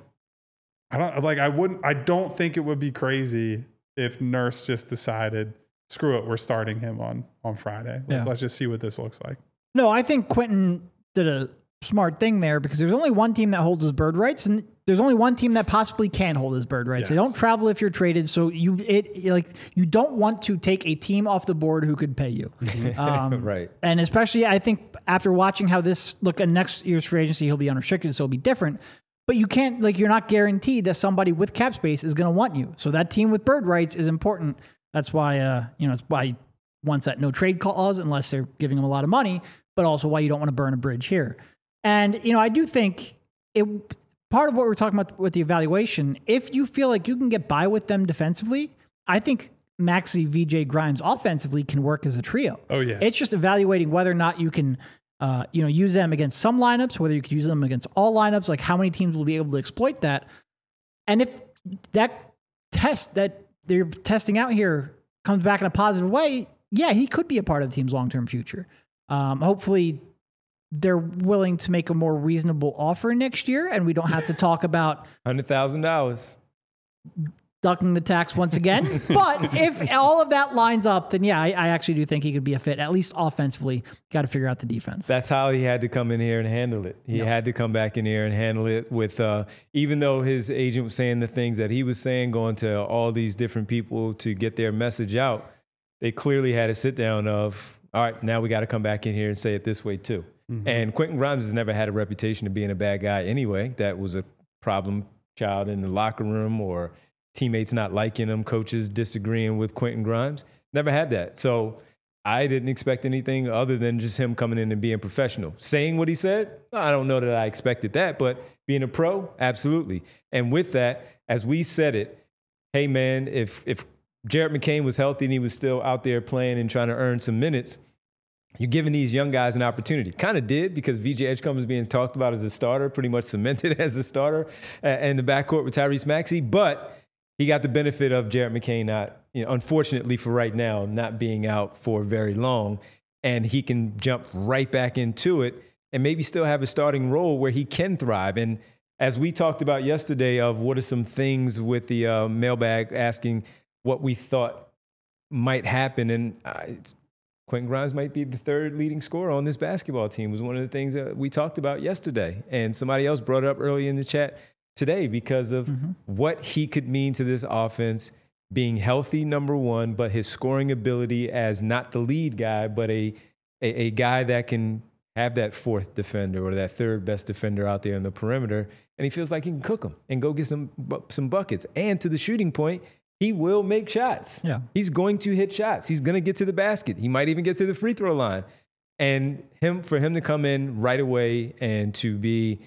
I don't think it would be crazy if Nurse just decided, screw it, we're starting him on Friday. Let's just see what this looks like.
No, I think Quentin did a smart thing there because there's only one team that holds his bird rights, and there's only one team that possibly can hold his bird rights. Yes. They don't travel if you're traded, so you don't want to take a team off the board who could pay you.
Right.
And especially, I think after watching how this look at next year's free agency, he'll be unrestricted, so it'll be different. But you can't, you're not guaranteed that somebody with cap space is going to want you. So that team with bird rights is important. That's why, it's why he wants that no trade clause unless they're giving him a lot of money, but also why you don't want to burn a bridge here. And, I do think part of what we're talking about with the evaluation, if you feel like you can get by with them defensively, I think Maxey, VJ, Grimes offensively can work as a trio.
Oh, yeah.
It's just evaluating whether or not you can use them against some lineups, whether you could use them against all lineups, like how many teams will be able to exploit that. And if that test that they're testing out here comes back in a positive way, yeah, he could be a part of the team's long-term future. Hopefully they're willing to make a more reasonable offer next year, and we don't have to talk about
$100,000.
Ducking the tax once again. But if all of that lines up, then yeah, I actually do think he could be a fit, at least offensively. Got to figure out the defense.
That's how he had to come in here and handle it. He had to come back in here and handle it with, even though his agent was saying the things that he was saying, going to all these different people to get their message out, they clearly had a sit down of, all right, now we got to come back in here and say it this way too. Mm-hmm. And Quentin Grimes has never had a reputation of being a bad guy anyway. That was a problem child in the locker room or teammates not liking him, coaches disagreeing with Quentin Grimes. Never had that. So I didn't expect anything other than just him coming in and being professional. Saying what he said, I don't know that I expected that, but being a pro, absolutely. And with that, as we said it, hey man, if Jared McCain was healthy and he was still out there playing and trying to earn some minutes, you're giving these young guys an opportunity. Kind of did, because VJ Edgecombe is being talked about as a starter, pretty much cemented as a starter in the backcourt with Tyrese Maxey. But he got the benefit of Jared McCain not, unfortunately for right now, not being out for very long. And he can jump right back into it and maybe still have a starting role where he can thrive. And as we talked about yesterday of what are some things with the mailbag asking what we thought might happen. And Quentin Grimes might be the third leading scorer on this basketball team was one of the things that we talked about yesterday. And somebody else brought it up early in the chat today because of what he could mean to this offense, being healthy, number one, but his scoring ability as not the lead guy, but a guy that can have that fourth defender or that third best defender out there in the perimeter. And he feels like he can cook them and go get some buckets. And to the shooting point, he will make shots. Yeah. He's going to hit shots. He's going to get to the basket. He might even get to the free throw line. And for him to come in right away and to be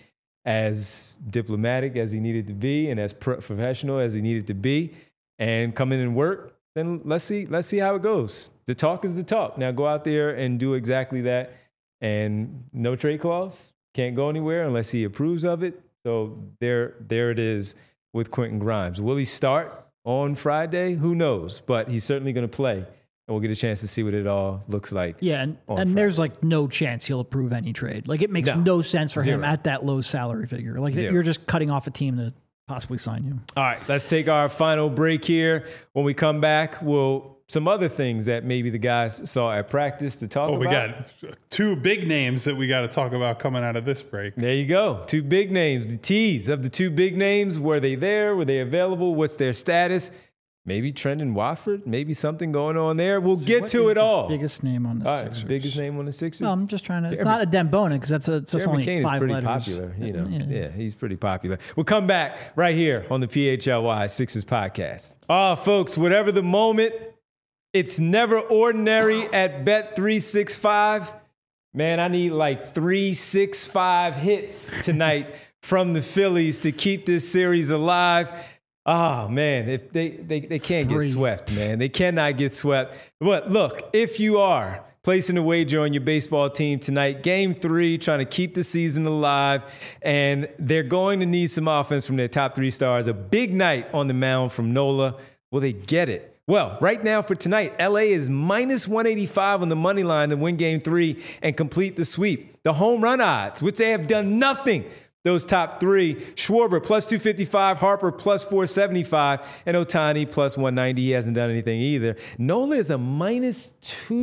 as diplomatic as he needed to be and as professional as he needed to be and come in and work, then let's see how it goes. The talk is the talk. Now go out there and do exactly that. And no trade clause, can't go anywhere unless he approves of it. So there it is with Quentin Grimes. Will he start on Friday? Who knows? But he's certainly going to play, and we'll get a chance to see what it all looks like.
Yeah, and there's no chance he'll approve any trade. It makes no sense for him at that low salary figure. You're just cutting off a team to possibly sign you.
All right, let's take our final break here. When we come back, some other things that maybe the guys saw at practice to talk about.
We got two big names that we got to talk about coming out of this break.
There you go. Two big names. The tease of the two big names. Were they there? Were they available? What's their status? maybe Trendon Watford, maybe something going on there. We'll get to it all.
Biggest name on the
All right,
Sixers.
biggest name on the Sixers.
No, I'm just trying to. It's not a Dembona because that's only
McCain
5
is pretty
letters.
popular. Yeah, he's pretty popular. We'll come back right here on the PHLY Sixers podcast. Oh, folks, whatever the moment, it's never ordinary at Bet365. Man, I need like 365 hits tonight from the Phillies to keep this series alive. Oh, man, if they can't get swept, man. They cannot get swept. But look, if you are placing a wager on your baseball team tonight, Game 3, trying to keep the season alive, and they're going to need some offense from their top 3 stars. A big night on the mound from Nola. Will they get it? Well, right now for tonight, LA is minus 185 on the money line to win Game 3 and complete the sweep. The home run odds, which they have done nothing. Those top 3, Schwarber plus 255, Harper plus 475, and Ohtani plus 190. He hasn't done anything either. Nola is a minus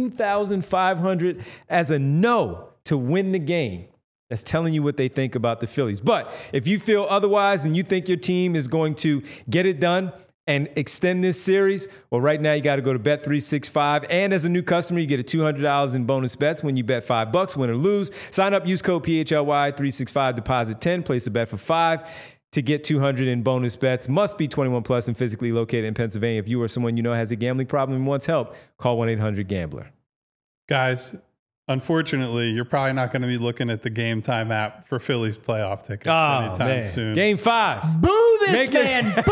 2,500 as a no to win the game. That's telling you what they think about the Phillies. But if you feel otherwise and you think your team is going to get it done and extend this series, well, right now you got to go to Bet365. And as a new customer, you get a $200 in bonus bets when you bet $5, win or lose. Sign up, use code PHLY365, deposit 10, place a bet for $5 to get $200 in bonus bets. Must be 21 plus and physically located in Pennsylvania. If you or someone you know has a gambling problem and wants help, call 1-800-GAMBLER.
Guys, unfortunately, you're probably not going to be looking at the Game Time app for Phillies playoff tickets anytime soon.
Game 5.
Boo this man! Boo!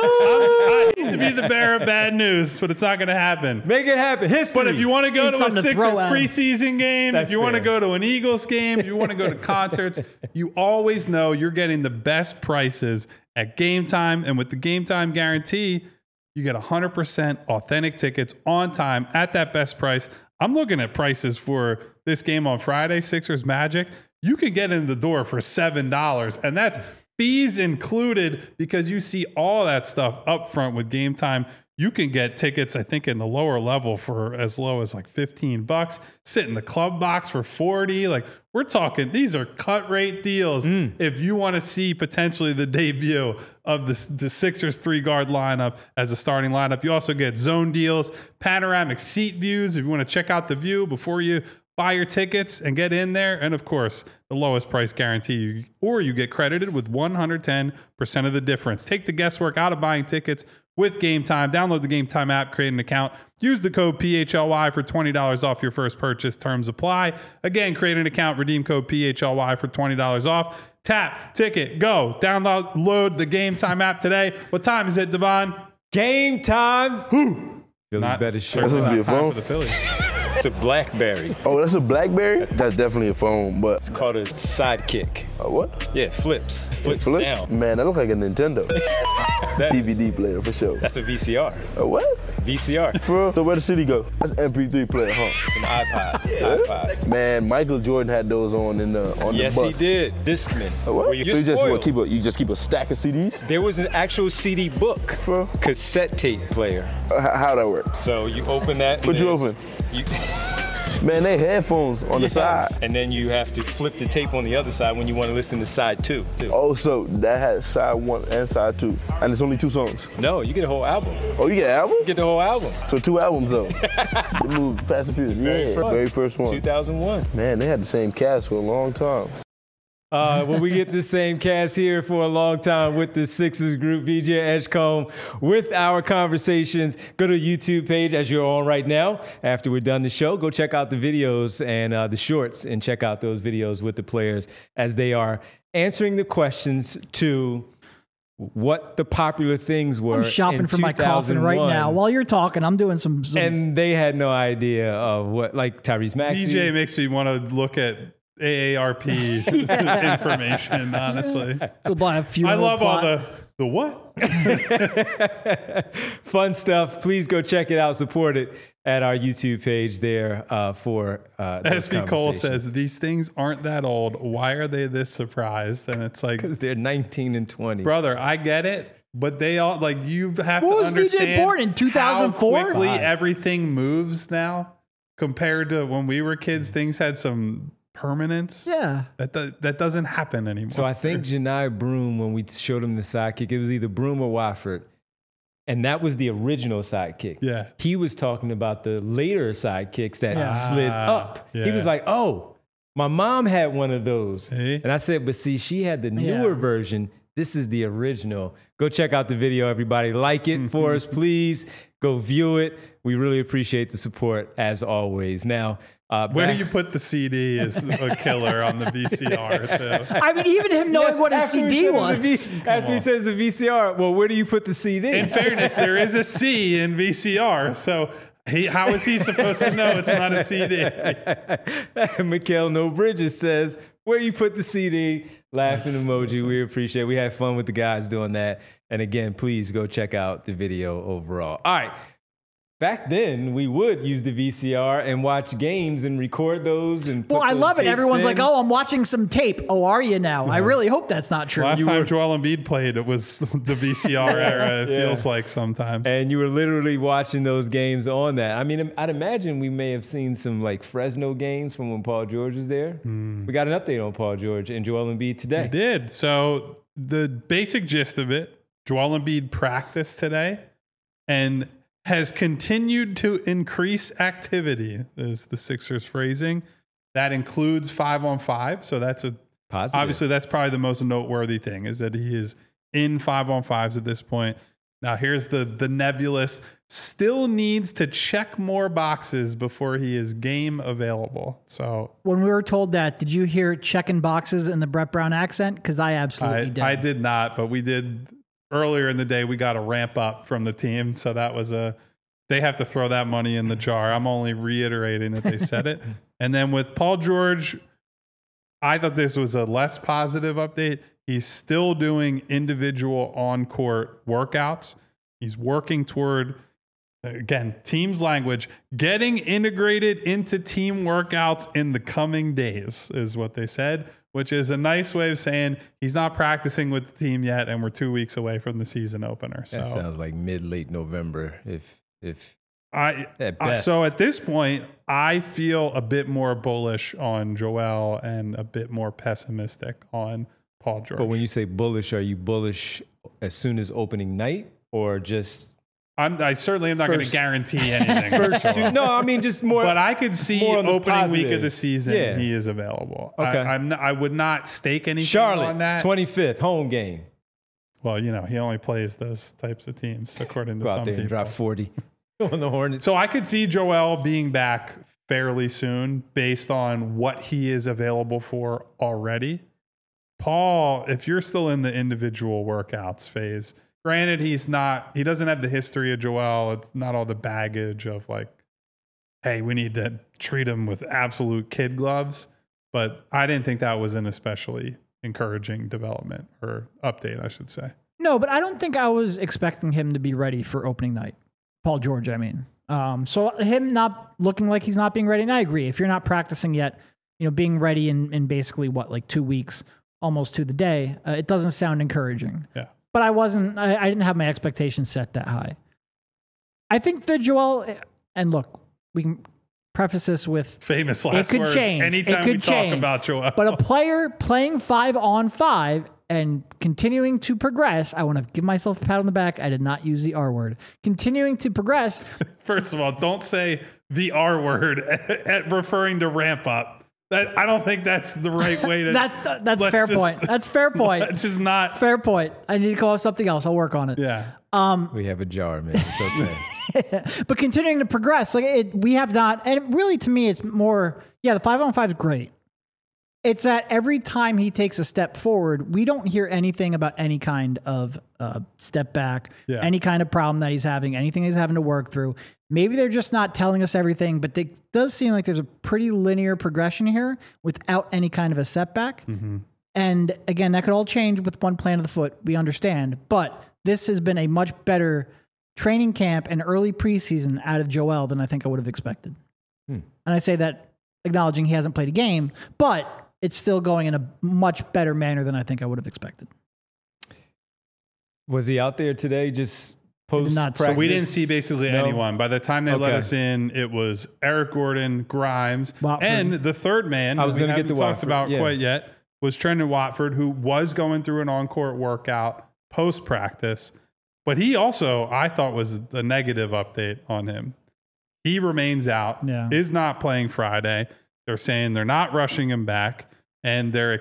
I hate to be the bearer of bad news, but it's not going to happen.
Make it happen. History.
But if you want to go
Need
to a
something to
Sixers
throw at 'em.
preseason game,
That's
if you want to
fair.
go to an Eagles game, if you want to go to concerts, you always know you're getting the best prices at Game Time. And with the Game Time guarantee, you get 100% authentic tickets on time at that best price. I'm looking at prices for this game on Friday, Sixers Magic. You can get in the door for $7, and that's fees included because you see all that stuff up front with Game Time. You can get tickets, I think, in the lower level for as low as like $15. Sit in the club box for $40. Like, we're talking, these are cut rate deals. If you want to see potentially the debut of the Sixers 3-guard lineup as a starting lineup, you also get zone deals, panoramic seat views. If you want to check out the view before you buy your tickets and get in there. And of course, the lowest price guarantee, or you get credited with 110% of the difference. Take the guesswork out of buying tickets with Game Time. Download the Game Time app, create an account, use the code PHLY for $20 off your first purchase. Terms apply. Again, create an account, redeem code PHLY for $20 off. Tap, ticket, go. Download the Game Time app today. What time is it, Devon?
Game time. Phillies better show
certainly
up.
not
be a
time
phone.
for the Phillies.
It's a BlackBerry.
Oh, that's a BlackBerry? That's definitely a phone, but
It's called a Sidekick.
what?
Yeah, flips
Flip?
down.
Man, that look like a Nintendo
That is-
DVD player for sure.
That's a VCR.
What?
VCR.
Bro, so where the city go? That's an MP3 player, huh?
It's an iPod.
Man, Michael Jordan had those on
Yes,
the
he
bus.
did. Discman.
What?
Where
So
you're
you just
spoiled.
keep a stack of CDs?
There was an actual CD book,
Bro.
cassette tape player.
How that work?
So you open that. and
What'd you
there's-
Man, they headphones on the side.
And then you have to flip the tape on the other side when you want to listen to side 2.
Oh, so that had side 1 and side 2, and it's only 2 songs.
No, you get a whole album.
Oh, you get an album?
You get the whole album.
So 2 albums though. They moved Fast and Furious. Very first one.
2001.
Man, they had the same cast for a long time.
Well, we get the same cast here for a long time with the Sixers group, VJ Edgecombe, with our conversations. Go to the YouTube page as you're on right now. After we're done the show, go check out the videos and the shorts and check out those videos with the players as they are answering the questions to what the popular things were.
I'm shopping
in
for my coffin right
2001.
now. While you're talking, I'm doing some
And they had no idea of what, like Tyrese Maxey.
DJ makes me want to look at AARP information, honestly.
go buy a few.
I love all the what?
Fun stuff. Please go check it out. Support it at our YouTube page there for those
SB Cole
conversations.
says, these things aren't that old. Why are they this surprised? And it's like,
Because they're 19 and 20.
brother, I get it. But they all, like, you have
What
to
was VJ
understand
born in 2004?
how quickly
Five.
everything moves now compared to when we were kids. Things had some permanence.
Yeah.
That doesn't happen anymore.
So I think Janai Broom, when we showed him the sidekick, it was either Broom or Wofford. And that was the original sidekick.
Yeah.
He was talking about the later sidekicks that slid up.
yeah.
He was like, oh, my mom had one of those.
See?
And I said, but see, she had the newer version. This is the original. Go check out the video, everybody. Like it for us, please. Go view it. We really appreciate the support, as always. Now,
where do you put the CD is a killer on the VCR, too.
I mean, even him knowing what a CD was.
After he says a VCR, well, where do you put the CD?
In fairness, there is a C in VCR, so how is he supposed to know it's not a CD?
Mikhail No Bridges says, where you put the CD? Laughing emoji. We appreciate it. We had fun with the guys doing that. And again, please go check out the video overall. All right. Back then, we would use the VCR and watch games and record those. And
Well, I love it.
tapes
Everyone's
in.
like, oh, I'm watching some tape. Oh, are you now? I really hope that's not true.
Last time Joel Embiid played, it was the VCR era, it feels like sometimes.
And you were literally watching those games on that. I mean, I'd imagine we may have seen some like Fresno games from when Paul George was there. We got an update on Paul George and Joel Embiid today.
I did. So the basic gist of it, Joel Embiid practiced today and has continued to increase activity, is the Sixers phrasing. That includes 5-on-5. So that's a
Positive.
obviously that's probably the most noteworthy thing, is that he is in 5-on-5s at this point. Now here's the nebulous, still needs to check more boxes before he is game available. So
When we were told that, did you hear checking boxes in the Brett Brown accent? Because I absolutely did.
I did not, but we did earlier in the day. We got a ramp up from the team. So that was they have to throw that money in the jar. I'm only reiterating that they said it. And then with Paul George, I thought this was a less positive update. He's still doing individual on-court workouts. He's working toward, again, team's language, getting integrated into team workouts in the coming days is what they said, which is a nice way of saying he's not practicing with the team yet, and we're 2 weeks away from the season opener. So
That sounds like mid-late November, if at best.
So at this point, I feel a bit more bullish on Joel and a bit more pessimistic on Paul George.
But when you say bullish, are you bullish as soon as opening night or just
I certainly am not going to
First-
guarantee anything.
first two? No, I mean just more.
But I could see
more on the
opening week
positive.
of the season,
Yeah.
he is available.
Okay.
I would not stake anything
Charlotte,
on that.
25th, home game.
Well, he only plays those types of teams, according to
Go
some
out there and
people.
drop 40 on the Hornets.
So I could see Joel being back fairly soon based on what he is available for already. Paul, if you're still in the individual workouts phase, granted, he doesn't have the history of Joel. It's not all the baggage of like, hey, we need to treat him with absolute kid gloves. But I didn't think that was an especially encouraging development or update, I should say.
No, but I don't think I was expecting him to be ready for opening night. Paul George, I mean. So him not looking like he's not being ready, and I agree. If you're not practicing yet, being ready in basically like 2 weeks, almost to the day, it doesn't sound encouraging.
Yeah.
But I didn't have my expectations set that high. I think that Joel, and look, we can preface this with
Famous last
could
words.
change.
Anytime
It could
we talk
change.
about Joel.
but a player playing 5-on-5 and continuing to progress, I want to give myself a pat on the back. I did not use the R word. Continuing to progress.
First of all, don't say the R word at referring to ramp up. I don't think that's the right way to.
That's
let's
fair
just-
point. That's fair point.
Let's just not.
Fair point. I need to come up with something else. I'll work on it.
Yeah.
we have a jar, man. It's okay.
But continuing to progress, we have not, and really to me, it's more, the 5-on-5 is great. It's that every time he takes a step forward, we don't hear anything about any kind of step back, any kind of problem that he's having, anything he's having to work through. Maybe they're just not telling us everything, but it does seem like there's a pretty linear progression here without any kind of a setback.
Mm-hmm.
And again, that could all change with one plant of the foot. We understand. But this has been a much better training camp and early preseason out of Joel than I think I would have expected. And I say that acknowledging he hasn't played a game, but it's still going in a much better manner than I think I would have expected.
Was he out there today just post
Not-
practice?
So we didn't see basically
No?
anyone. By the time they let
Okay.
us in, it was Eric Gordon, Grimes,
Watford.
and the third man.
I was
we
gonna get
haven't
to
talked
Watford,
about
yeah.
quite yet. Was Trendon Watford, who was going through an on-court workout post-practice. But he also, I thought, was the negative update on him. He remains out, is not playing Friday. They're saying they're not rushing him back, and they're,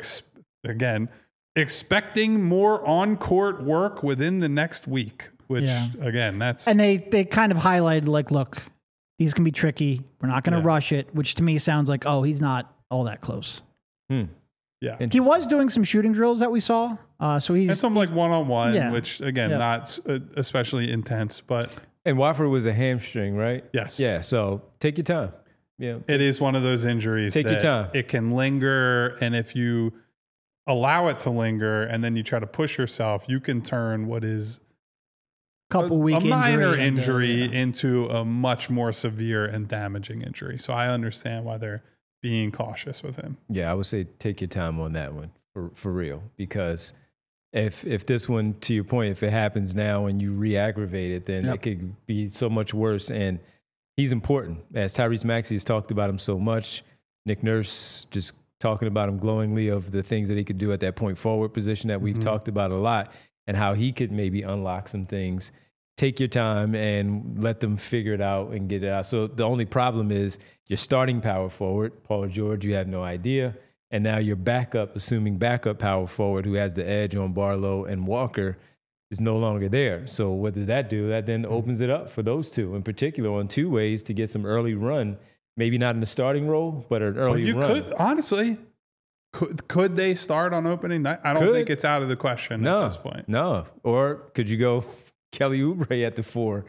expecting more on-court work within the next week, which, again, that's...
And they kind of highlighted, like, look, these can be tricky. We're not going to rush it, which to me sounds like, oh, he's not all that close.
Yeah.
He was doing some shooting drills that we saw. So he's
some like one-on-one, which, again, not especially intense, but...
And Watford was a hamstring, right?
Yes.
Yeah, so take your time. Yeah,
it is one of those injuries
take your time.
It can linger, and if you allow it to linger and then you try to push yourself, you can turn what is
a
minor injury into a much more severe and damaging injury. So I understand why they're being cautious with him.
Yeah, I would say take your time on that one for real, because if this one, to your point, if it happens now and you re-aggravate it, then it could be so much worse. And he's important. As Tyrese Maxey has talked about him so much, Nick Nurse just talking about him glowingly of the things that he could do at that point forward position that we've talked about a lot, and how he could maybe unlock some things. Take your time and let them figure it out and get it out. So the only problem is your starting power forward, Paul George, you have no idea. And now your backup, assuming backup power forward who has the edge on Barlow and Walker, is no longer there. So what does that do? That then opens it up for those two in particular on two ways to get some early run. Maybe not in the starting role, but an early run.
Honestly, could they start on opening night? I don't think it's out of the question at this point.
No. Or could you go Kelly Oubre at the 4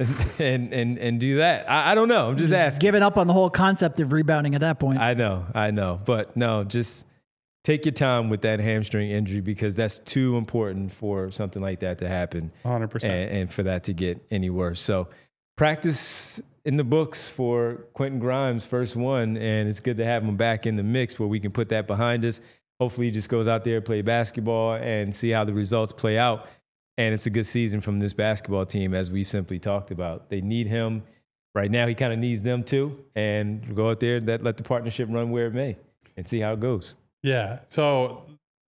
and do that? I don't know. I'm just asking.
Giving up on the whole concept of rebounding at that point.
I know. But no, just take your time with that hamstring injury, because that's too important for something like that to happen.
100%.
And for that to get any worse. So practice in the books for Quentin Grimes, first one, and it's good to have him back in the mix where we can put that behind us. Hopefully he just goes out there, play basketball, and see how the results play out. And it's a good season from this basketball team, as we've simply talked about. They need him. Right now, he kind of needs them too. And go out there and let the partnership run where it may and see how it goes.
Yeah. So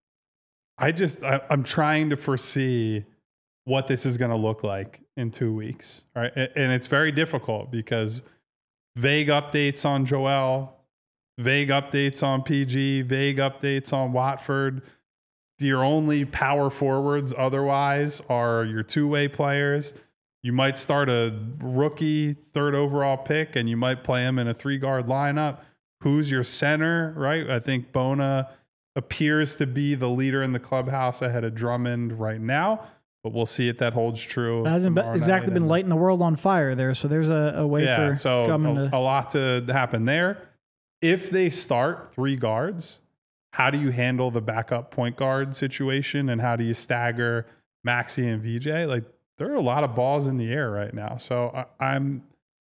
I'm trying to foresee what this is going to look like in 2 weeks. Right. And it's very difficult because vague updates on Joel, vague updates on PG, vague updates on Watford. Your only power forwards otherwise are your two-way players. You might start a rookie 3rd overall pick and you might play him in a 3-guard lineup. Who's your center, right? I think Bona appears to be the leader in the clubhouse ahead of Drummond right now, but we'll see if that holds true.
It hasn't exactly been lighting the world on fire there, so there's a way for Drummond
a lot to happen there. If they start 3 guards, how do you handle the backup point guard situation, and how do you stagger Maxey and VJ? Like, there are a lot of balls in the air right now. So I'm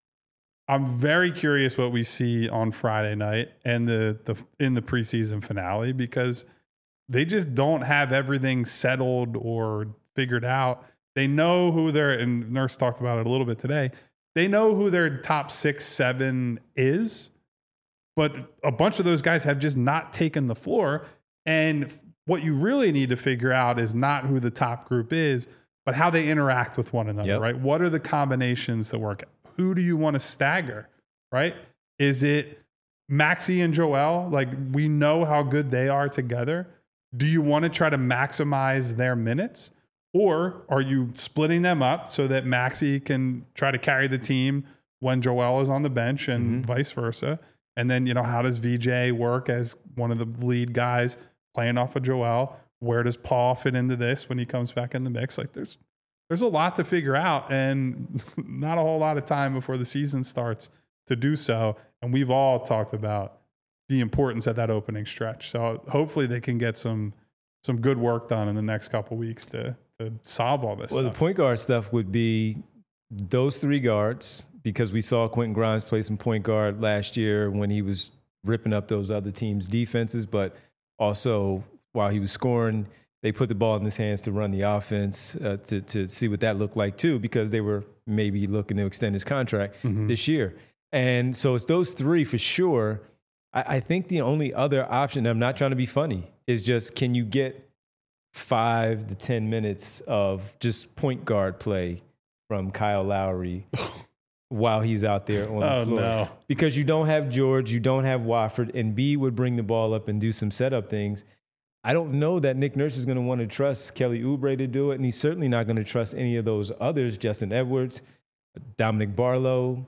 very curious what we see on Friday night and in the preseason finale, because they just don't have everything settled or figured out. They know who and Nurse talked about it a little bit today. They know who their top 6, 7 is. But a bunch of those guys have just not taken the floor. And what you really need to figure out is not who the top group is, but how they interact with one another, right? What are the combinations that work? Who do you want to stagger, right? Is it Maxey and Joel? Like, we know how good they are together. Do you want to try to maximize their minutes? Or are you splitting them up so that Maxey can try to carry the team when Joel is on the bench and vice versa? And then, how does VJ work as one of the lead guys playing off of Joel? Where does Paul fit into this when he comes back in the mix? Like, there's a lot to figure out, and not a whole lot of time before the season starts to do so. And we've all talked about the importance of that opening stretch. So hopefully they can get some good work done in the next couple of weeks to solve all this stuff.
The point guard stuff would be those 3 guards, because we saw Quentin Grimes play some point guard last year when he was ripping up those other teams' defenses, but also while he was scoring, they put the ball in his hands to run the offense, to see what that looked like too, because they were maybe looking to extend his contract this year. And so it's those 3 for sure. I think the only other option, I'm not trying to be funny, is just, can you get 5 to 10 minutes of just point guard play from Kyle Lowry while he's out there on the floor.
No.
Because you don't have George, you don't have Wofford, and B would bring the ball up and do some setup things. I don't know that Nick Nurse is going to want to trust Kelly Oubre to do it, and he's certainly not going to trust any of those others, Justin Edwards, Dominic Barlow.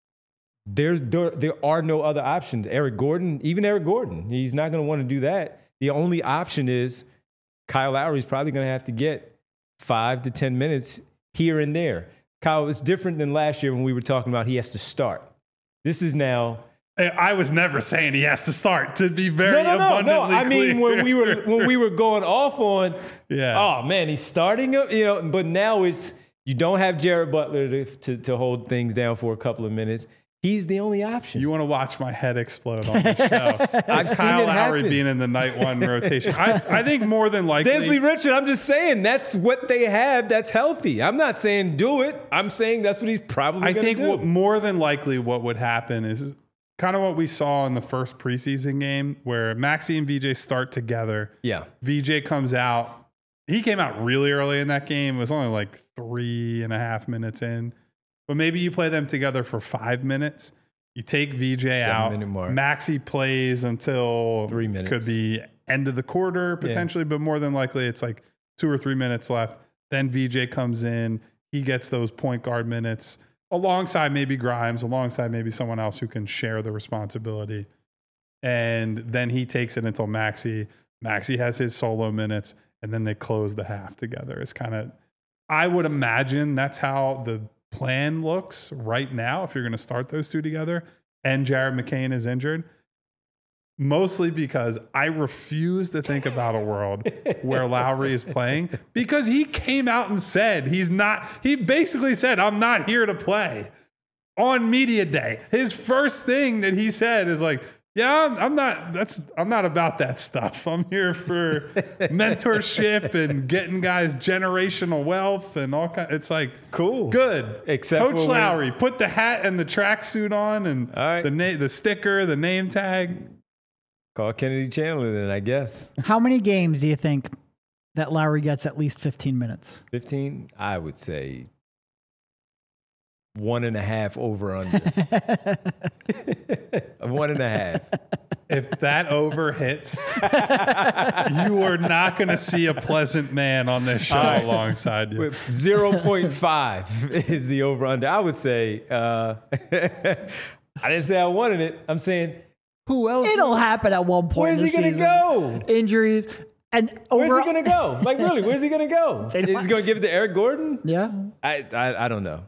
There are no other options. Eric Gordon, he's not going to want to do that. The only option is Kyle Lowry's probably going to have to get 5 to 10 minutes here and there. Kyle, it's different than last year when we were talking about he has to start. This is now.
I was never saying he has to start, to be very abundantly clear.
I mean, when we were going off on, oh man, he's starting up, but now it's, you don't have Jared Butler to hold things down for a couple of minutes. He's the only option.
You want to watch my head explode on the show.
I've seen
Kyle
it
Lowry
happen.
being in the night one rotation. I think more than likely.
Densley Richard, I'm just saying that's what they have that's healthy. I'm not saying do it. I'm saying that's what he's probably going to do.
I think more than likely what would happen is kind of what we saw in the first preseason game where Maxey and VJ start together.
Yeah.
VJ comes out. He came out really early in that game. It was only like 3.5 minutes in. But maybe you play them together for 5 minutes. You take VJ out. Maxey plays until
3 minutes.
Could be end of the quarter potentially, but more than likely it's like 2 or 3 minutes left. Then VJ comes in. He gets those point guard minutes alongside maybe Grimes, alongside maybe someone else who can share the responsibility. And then he takes it until Maxey. Maxey has his solo minutes, and then they close the half together. It's kind of, I would imagine that's how the plan looks right now if you're going to start those two together and Jared McCain is injured. Mostly because I refuse to think about a world where Lowry is playing because he came out and said he basically said, I'm not here to play on media day. His first thing that he said is like, yeah, I'm not about that stuff. I'm here for mentorship and getting guys generational wealth and all kinds. It's like,
cool,
good.
Except
Coach Lowry, put the hat and the tracksuit on and the sticker, the name tag.
Call Kennedy Chandler then, I guess.
How many games do you think that Lowry gets at least 15 minutes?
15? I would say 1.5 over under. 1.5.
If that over hits, you are not going to see a pleasant man on this show alongside you.
0.5 is the over under. I would say, I didn't say I wanted it. I'm saying, who else?
It'll happen at one point.
Where's he going to go?
Injuries. And
where's he going to go? Like, really, where's he going to go? Is he going to give it to Eric Gordon?
Yeah.
I don't know.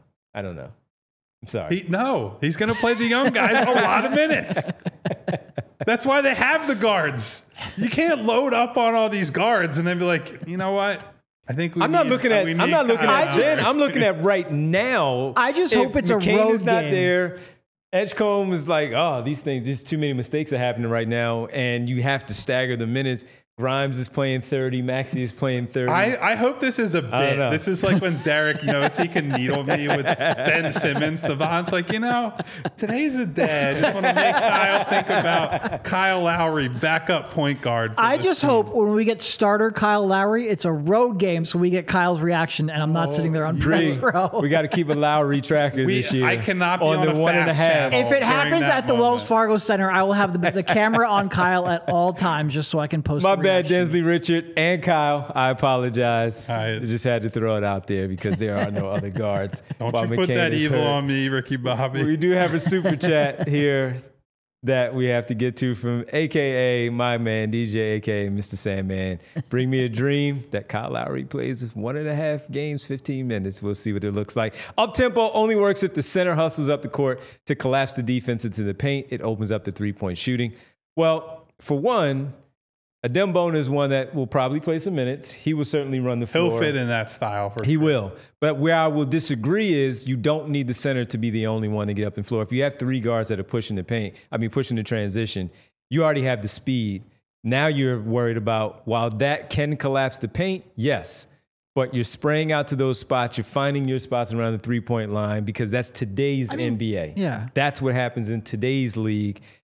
I'm sorry.
He's going to play the young guys a lot of minutes. That's why they have the guards. You can't load up on all these guards and then be like, you know what? I think
I'm not looking at Ben. I'm looking at right now.
I just hope it's
McCain
a road
is not
game.
there. Edgecombe is like, there's too many mistakes are happening right now, and you have to stagger the minutes. Grimes is playing 30. Maxey is playing 30.
I hope this is a bit. This is like when Derek knows he can needle me with Ben Simmons. Devon's like, today's a day. I just want to make Kyle think about Kyle Lowry, backup point guard.
I just hope when we get starter Kyle Lowry, it's a road game, so we get Kyle's reaction, and I'm not sitting there on bench row.
We got to keep a Lowry tracker this year.
I cannot be on
the
a
1.5.
channel
If it happens at the
moment.
Wells Fargo Center, I will have the camera on Kyle at all times just so I can post
My
the
bad,
reaction.
Densley Richard and Kyle. I apologize.
I
just had to throw it out there because there are no other guards.
Don't
while
you put
McCain
that
is
evil
hurt.
on me, Ricky Bobby.
We do have a super chat here that we have to get to from AKA my man, DJ, AKA Mr. Sandman. Bring me a dream that Kyle Lowry plays with 1.5 games, 15 minutes. We'll see what it looks like. Up-tempo only works if the center hustles up the court to collapse the defense into the paint. It opens up the three-point shooting. Well, for one, Adembona is one that will probably play some minutes. He will certainly run the floor.
He'll fit in that style.
He will. But where I will disagree is you don't need the center to be the only one to get up and floor. If you have 3 guards that are pushing the transition, you already have the speed. Now you're worried about, while that can collapse the paint, yes, but you're spraying out to those spots. You're finding your spots around the three-point line because that's today's NBA.
Yeah.
That's what happens in today's league.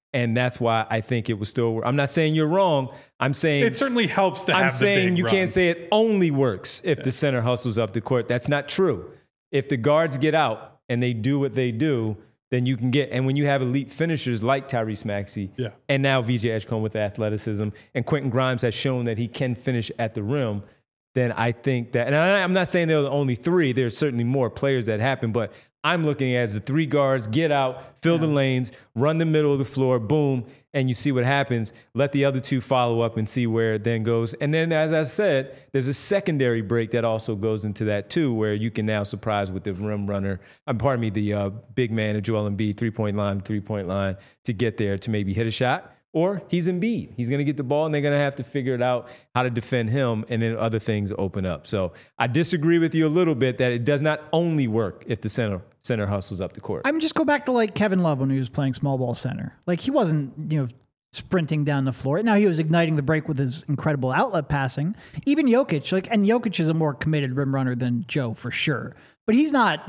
And that's why I think it was still. I'm not saying you're wrong. I'm saying
It certainly helps to have
I'm
the
saying
big
you
run.
can't say it only works if the center hustles up the court. That's not true. If the guards get out and they do what they do, then you can get. And when you have elite finishers like Tyrese Maxey and now VJ Edgecombe with athleticism, and Quentin Grimes has shown that he can finish at the rim, then I think that, and I'm not saying they're the only three. There's certainly more players that happen, but I'm looking at as the three guards get out, fill the lanes, run the middle of the floor, boom, and you see what happens. Let the other two follow up and see where it then goes. And then, as I said, there's a secondary break that also goes into that too, where you can now surprise with the rim runner. The big man of Joel Embiid, three-point line to get there to maybe hit a shot. Or he's Embiid. He's going to get the ball, and they're going to have to figure it out how to defend him, and then other things open up. So I disagree with you a little bit that it does not only work if the center hustles up the court.
I mean, just go back to like Kevin Love when he was playing small ball center. Like he wasn't, sprinting down the floor. Now he was igniting the break with his incredible outlet passing. Even Jokic, and Jokic is a more committed rim runner than Joe for sure. But he's not,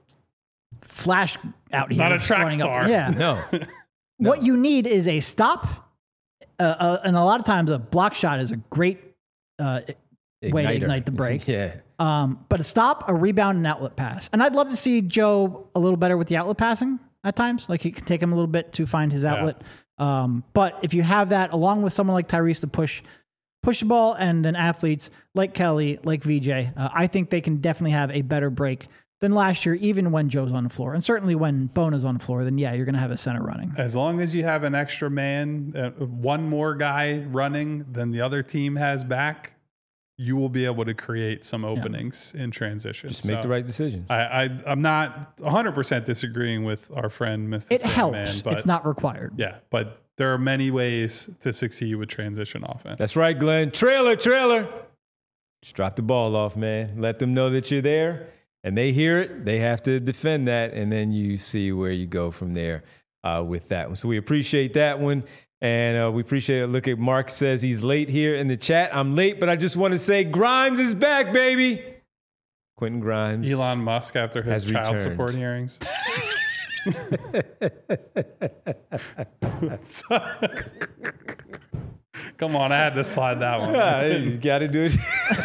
flash out here.
Not a track
running
star.
Up. Yeah.
No.
What you need is a stop, and a lot of times a block shot is a great way to ignite the break.
Yeah.
But a stop, a rebound, and outlet pass. And I'd love to see Joe a little better with the outlet passing at times. Like it can take him a little bit to find his outlet. But if you have that along with someone like Tyrese to push the ball, and then athletes like Kelly, like VJ, I think they can definitely have a better break than last year, even when Joe's on the floor. And certainly when Bona's on the floor, then yeah, you're going to have a center running.
As long as you have an extra man, one more guy running than the other team has back, you will be able to create some openings in transition.
Just make the right decisions.
I'm not 100% disagreeing with our friend, Mr.
It
Sandman,
helps.
but
It's not required.
yeah, but there are many ways to succeed with transition offense.
That's right, Glenn. Trailer. Just drop the ball off, man. Let them know that you're there. And they hear it, they have to defend that, and then you see where you go from there with that one. So we appreciate that one, and we appreciate it. Look at Mark says he's late here in the chat. I'm late, but I just want to say Grimes is back, baby. Quentin Grimes.
Elon Musk after his
has
child
returned.
support hearings. Come on, I had to slide that one.
Yeah, you got to do it.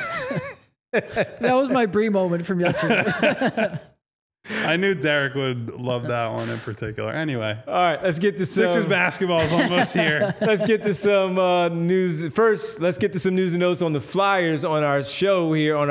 That was my Brie moment from yesterday.
I knew Derek would love that one in particular. Anyway,
All right, let's get to some
Sixers basketball is almost here.
Let's get to some news. First, let's get to some news and notes on the Flyers on our show here, on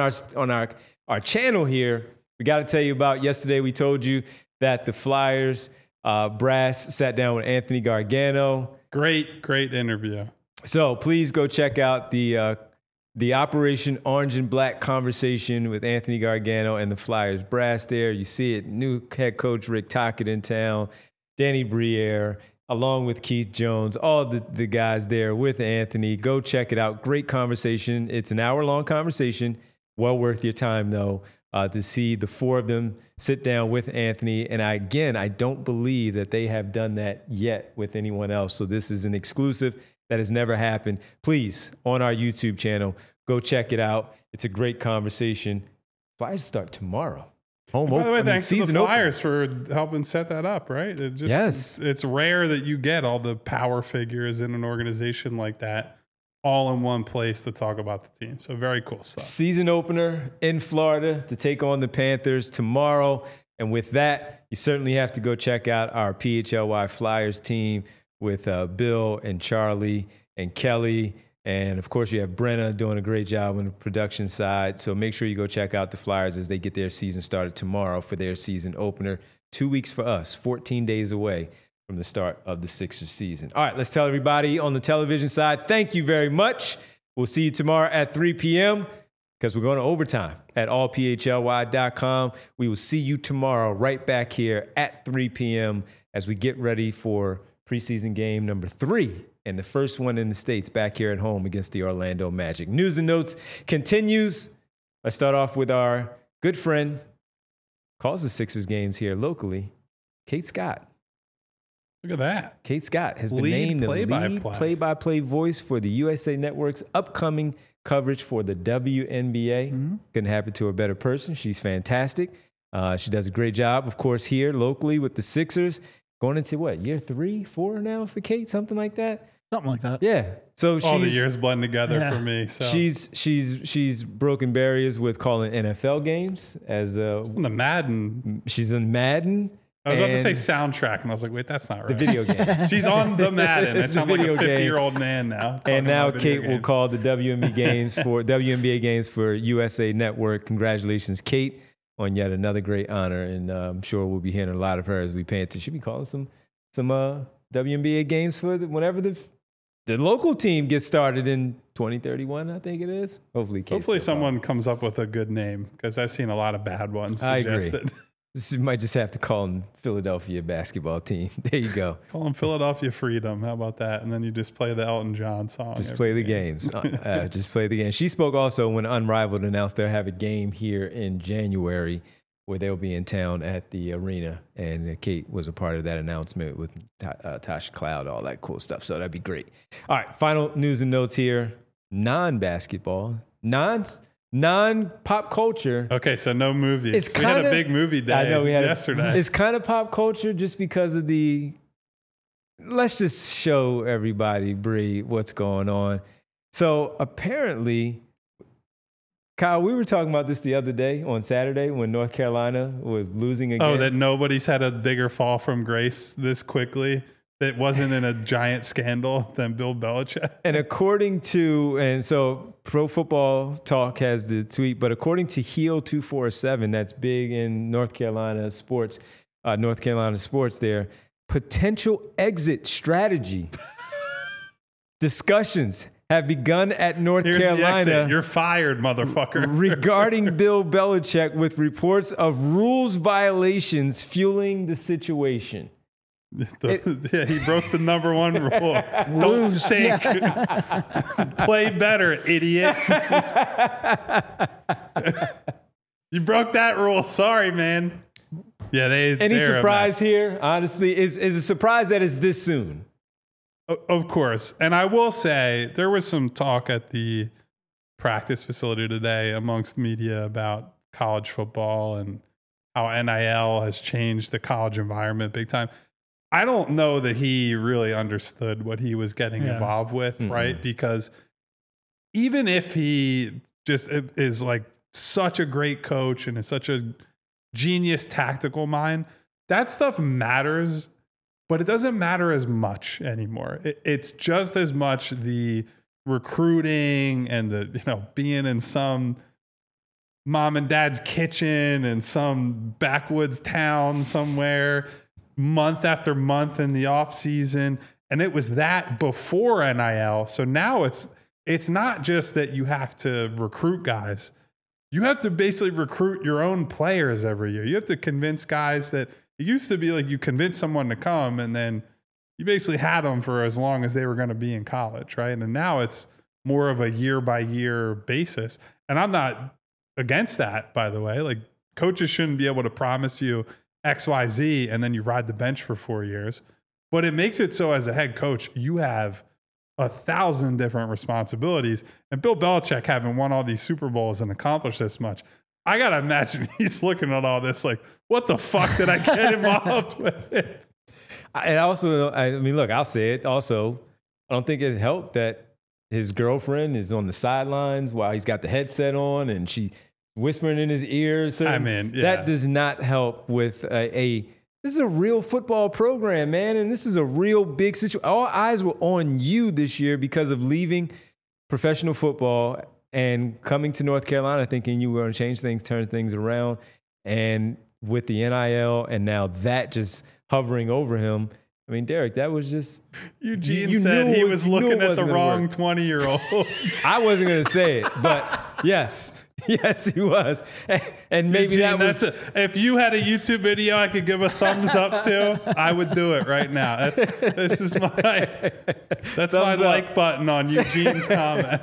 our channel here. We got to tell you about yesterday. We told you that the Flyers brass sat down with Anthony Gargano.
Great interview.
So please go check out the Operation Orange and Black conversation with Anthony Gargano and the Flyers brass there. You see it, new head coach Rick Tocchet in town, Danny Briere, along with Keith Jones, all the guys there with Anthony. Go check it out. Great conversation. It's an hour-long conversation. Well worth your time, though, to see the four of them sit down with Anthony. And I don't believe that they have done that yet with anyone else. So this is an exclusive that has never happened. Please, on our YouTube channel, go check it out. It's a great conversation. Flyers start tomorrow.
By the way, thanks to the
season opener.
Flyers for helping set that up, right?
Yes.
It's rare that you get all the power figures in an organization like that all in one place to talk about the team. So very cool stuff.
Season opener in Florida to take on the Panthers tomorrow. And with that, you certainly have to go check out our PHLY Flyers team with Bill and Charlie and Kelly. And, of course, you have Brenna doing a great job on the production side. So make sure you go check out the Flyers as they get their season started tomorrow for their season opener. 2 weeks for us, 14 days away from the start of the Sixers season. All right, let's tell everybody on the television side, thank you very much. We'll see you tomorrow at 3 p.m. because we're going to overtime at allphly.com. We will see you tomorrow right back here at 3 p.m. as we get ready for preseason game number 3 and the first one in the States back here at home against the Orlando Magic. News and notes continues. Let's start off with our good friend, calls the Sixers games here locally, Kate Scott.
Look at that.
Kate Scott has been
Lead
named the lead
play-by-play.
play-by-play voice for the USA Network's upcoming coverage for the WNBA. Couldn't happen to a better person. She's fantastic. She does a great job, of course, here locally with the Sixers. going into what, year 3, 4 now for Kate, something like that.
Something like that.
Yeah. So
All the years blend together
Yeah.
for me. So
she's broken barriers with calling NFL games as
On the Madden.
she's in Madden.
I was about to say
and
soundtrack, and I was like, wait, that's not right.
the video game.
She's on the Madden. I
It's a
sound like a
video game.
50-year-old man now. talking
And now
about video
Kate will
games.
call the WNBA games for USA Network. Congratulations, Kate, on yet another great honor. And I'm sure we'll be hearing a lot of her as we pay attention. Should be calling some WNBA games for whenever the local team gets started in 2031, I think it is. Hopefully
Someone comes up with a good name, because I've seen a lot of bad ones
I agree.
suggested.
You might just have to call them Philadelphia basketball team. There you go.
Call them Philadelphia Freedom. How about that? And then you just play the Elton John song.
Just
every
play the
game.
games. Just play the game. She spoke also when Unrivaled announced they'll have a game here in January where they'll be in town at the arena. And Kate was a part of that announcement with Tasha Cloud, all that cool stuff. So that'd be great. All right, final news and notes here. Non-basketball, non-pop culture.
Okay, so no movies.
It's
We had a
kinda-
big movie day
I know we had
yesterday.
It's kind of pop culture just because of let's just show everybody, Bree, what's going on. So apparently, Kyle, we were talking about this the other day on Saturday when North Carolina was losing again.
Oh, that nobody's had a bigger fall from grace this quickly that wasn't in a giant scandal than Bill Belichick.
And so Pro Football Talk has the tweet, but according to Heel 247, that's big in North Carolina sports there, potential exit strategy discussions have begun at North
Here's the
Carolina
exit. You're fired, motherfucker.
regarding Bill Belichick, with reports of rules violations fueling the situation.
Yeah, he broke the number one rule. Don't stink. Play better, idiot. You broke that rule. Sorry, man. Yeah,
Any
they're a
surprise
mess.
here? Honestly, is a surprise that it's this soon.
Of course. And I will say there was some talk at the practice facility today amongst media about college football and how NIL has changed the college environment big time. I don't know that he really understood what he was getting involved with, right? Because even if he just is like such a great coach and is such a genius tactical mind, that stuff matters, but it doesn't matter as much anymore. It's just as much the recruiting and the, being in some mom and dad's kitchen in some backwoods town somewhere month after month in the off season. And it was that before NIL. So now it's not just that you have to recruit guys. You have to basically recruit your own players every year. You have to convince guys that it used to be like you convince someone to come and then you basically had them for as long as they were going to be in college, right? And now it's more of a year by year basis. And I'm not against that, by the way. Like, coaches shouldn't be able to promise you X, Y, Z, and then you ride the bench for 4 years. But it makes it so as a head coach, you have 1,000 different responsibilities. And Bill Belichick, having won all these Super Bowls and accomplished this much, I got to imagine he's looking at all this like, what the fuck did I get involved with?
And also, look, I'll say it also, I don't think it helped that his girlfriend is on the sidelines while he's got the headset on and she whispering in his ear. So that does not help with this is a real football program, man. And this is a real big situation. All eyes were on you this year because of leaving professional football and coming to North Carolina thinking you were going to change things, turn things around. And with the NIL and now that just hovering over him, I mean, Derek, that was just...
Eugene said he was looking at the wrong 20-year-old.
I wasn't going to say it, but yes. Yes, he was. And maybe
Eugene,
that was...
if you had a YouTube video I could give a thumbs up to, I would do it right now. That's my like button on Eugene's comment.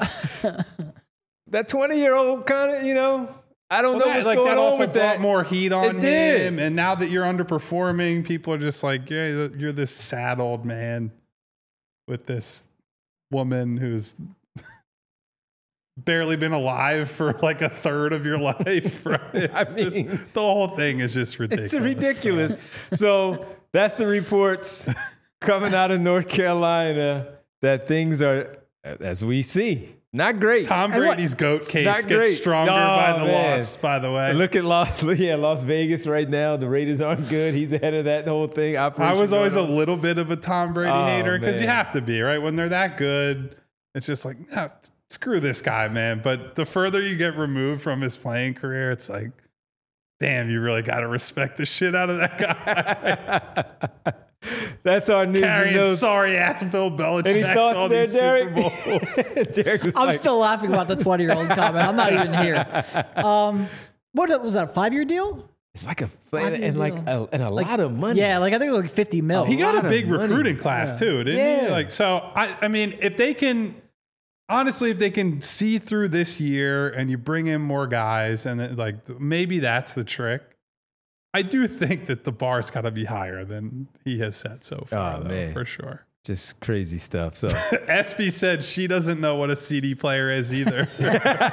That 20-year-old kind of, I don't know what's going
that
on
also
with
brought
that.
more heat on
It did.
him. And now that you're underperforming, people are just like, yeah, you're this sad old man with this woman who's barely been alive for like a third of your life. Right? It's just, the whole thing is just ridiculous.
It's ridiculous. So that's the reports coming out of North Carolina that things are, as we see, not great.
Tom Brady's GOAT case gets stronger by the loss, by the way.
Look at Las Vegas right now. The Raiders aren't good. He's ahead of that whole thing.
I was always a little bit of a Tom Brady hater because you have to be, right? When they're that good, it's just like, no, screw this guy, man. But the further you get removed from his playing career, it's like, damn, you really got to respect the shit out of that guy.
That's our news.
Carrying sorry ass Bill Belichick.
Any thoughts
all
there,
these Derek?
Derek was
I'm still laughing about the 20-year-old comment. I'm not even here. What was that, a 5-year deal?
It's like a lot of money.
Yeah, like I think it was like 50 mil.
He got a big recruiting class too, didn't he? Like, so I mean, if they can see through this year and you bring in more guys and then, like, maybe that's the trick. I do think that the bar's got to be higher than he has set so far, for sure.
Just crazy stuff. So
SB said she doesn't know what a CD player is either. All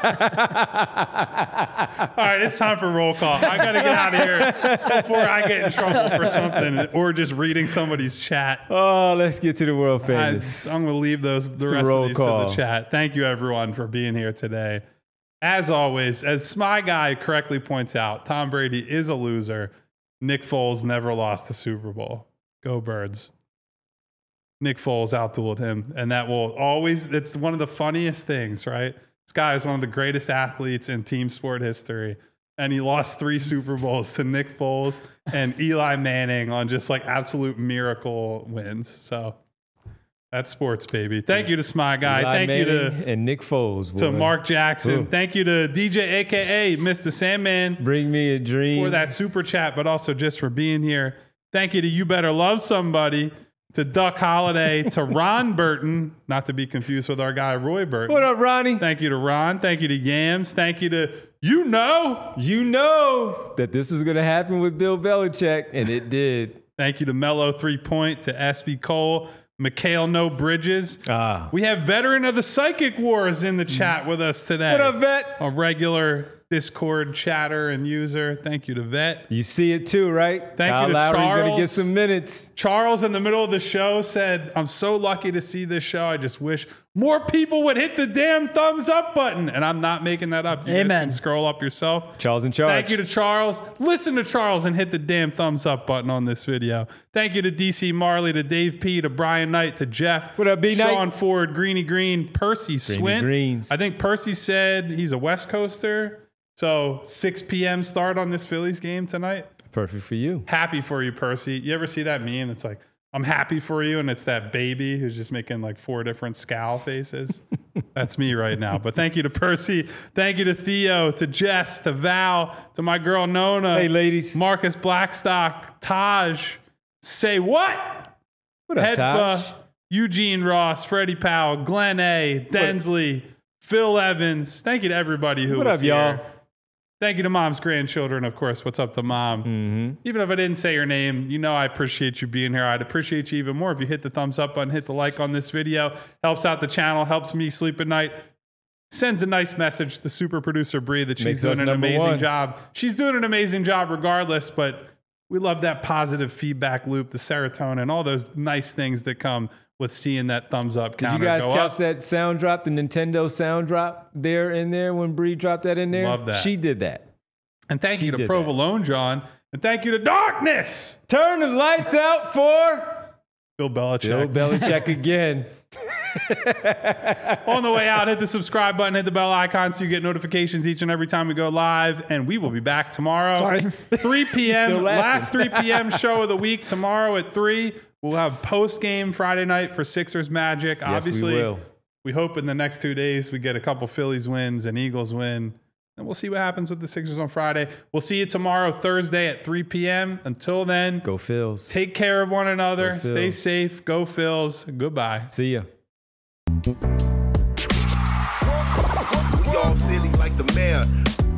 right, it's time for roll call. I got to get out of here before I get in trouble for something or just reading somebody's chat.
Oh, let's get to the world famous.
I'm going to leave the rest of these to the chat. Thank you, everyone, for being here today. As always, as Smy Guy correctly points out, Tom Brady is a loser. Nick Foles never lost the Super Bowl. Go Birds. Nick Foles outdueled him, and that will always, it's one of the funniest things, right? This guy is one of the greatest athletes in team sport history, and he lost 3 Super Bowls to Nick Foles and Eli Manning on just like absolute miracle wins. So that's sports, baby. Thank you to Smy Guy.
Eli
Thank
Manning
you to
and Nick Foles.
To Mark Jackson. Thank you to DJ, a.k.a. Mr. Sandman.
Bring me a dream.
For that super chat, but also just for being here. Thank you to You Better Love Somebody, to Duck Holiday, to Ron Burton, not to be confused with our guy Roy Burton.
What up, Ronnie?
Thank you to Ron. Thank you to Yams. Thank you to
You know that this was going to happen with Bill Belichick, and it did.
Thank you to Mellow 3 Point, to SB Cole, Mikhail No Bridges. We have veteran of the Psychic Wars in the chat with us today.
What up, Vet?
A regular Discord chatter and user. Thank you to Vet.
You see it too, right?
Thank
Kyle
you to
Lowry's
Charles.
Going to get some minutes.
Charles, in the middle of the show, said, I'm so lucky to see this show. I just wish more people would hit the damn thumbs up button. And I'm not making that up. You guys can scroll up yourself.
Charles in charge.
Thank you to Charles. Listen to Charles and hit the damn thumbs up button on this video. Thank you to DC Marley, to Dave P, to Brian Knight, to Jeff.
What up, B Knight?
Sean Ford, Greeny Green, Percy Swint.
Greens.
I think Percy said he's a West Coaster. So 6 p.m. start on this Phillies game tonight.
Perfect for you.
Happy for you, Percy. You ever see that meme? It's like, I'm happy for you. And it's that baby who's just making like 4 different scowl faces. That's me right now. But thank you to Percy. Thank you to Theo, to Jess, to Val, to my girl Nona.
Hey, ladies.
Marcus Blackstock, Taj. Say what?
What up, Taj?
Eugene Ross, Freddie Powell, Glenn A, Densley, Phil Evans. Thank you to everybody who was here. What up, y'all? Thank you to Mom's grandchildren, of course. What's up to Mom? Mm-hmm. Even if I didn't say your name, you know I appreciate you being here. I'd appreciate you even more if you hit the thumbs up button, hit the like on this video. Helps out the channel, helps me sleep at night. Sends a nice message to super producer Bree that she's doing an amazing job. She's doing an amazing job regardless, but we love that positive feedback loop, the serotonin, all those nice things that come with seeing that thumbs up counter go up. Did you guys catch
that sound drop, the Nintendo sound drop in there when Bree dropped that in there?
Love that.
She did that.
And thank you to Provolone John. And thank you to Darkness.
Turn the lights out for
Bill Belichick.
Bill Belichick again.
On the way out, hit the subscribe button, hit the bell icon so you get notifications each and every time we go live. And we will be back tomorrow. 3 p.m. Last 3 p.m. show of the week. Tomorrow at 3. We'll have post-game Friday night for Sixers Magic.
Yes,
obviously,
we will.
We hope in the next 2 days we get a couple Phillies wins and Eagles win. And we'll see what happens with the Sixers on Friday. We'll see you tomorrow, Thursday at 3 p.m. Until then,
go Phils.
Take care of one another. Stay safe. Go Phils. Goodbye.
See ya.
We all silly like the mayor.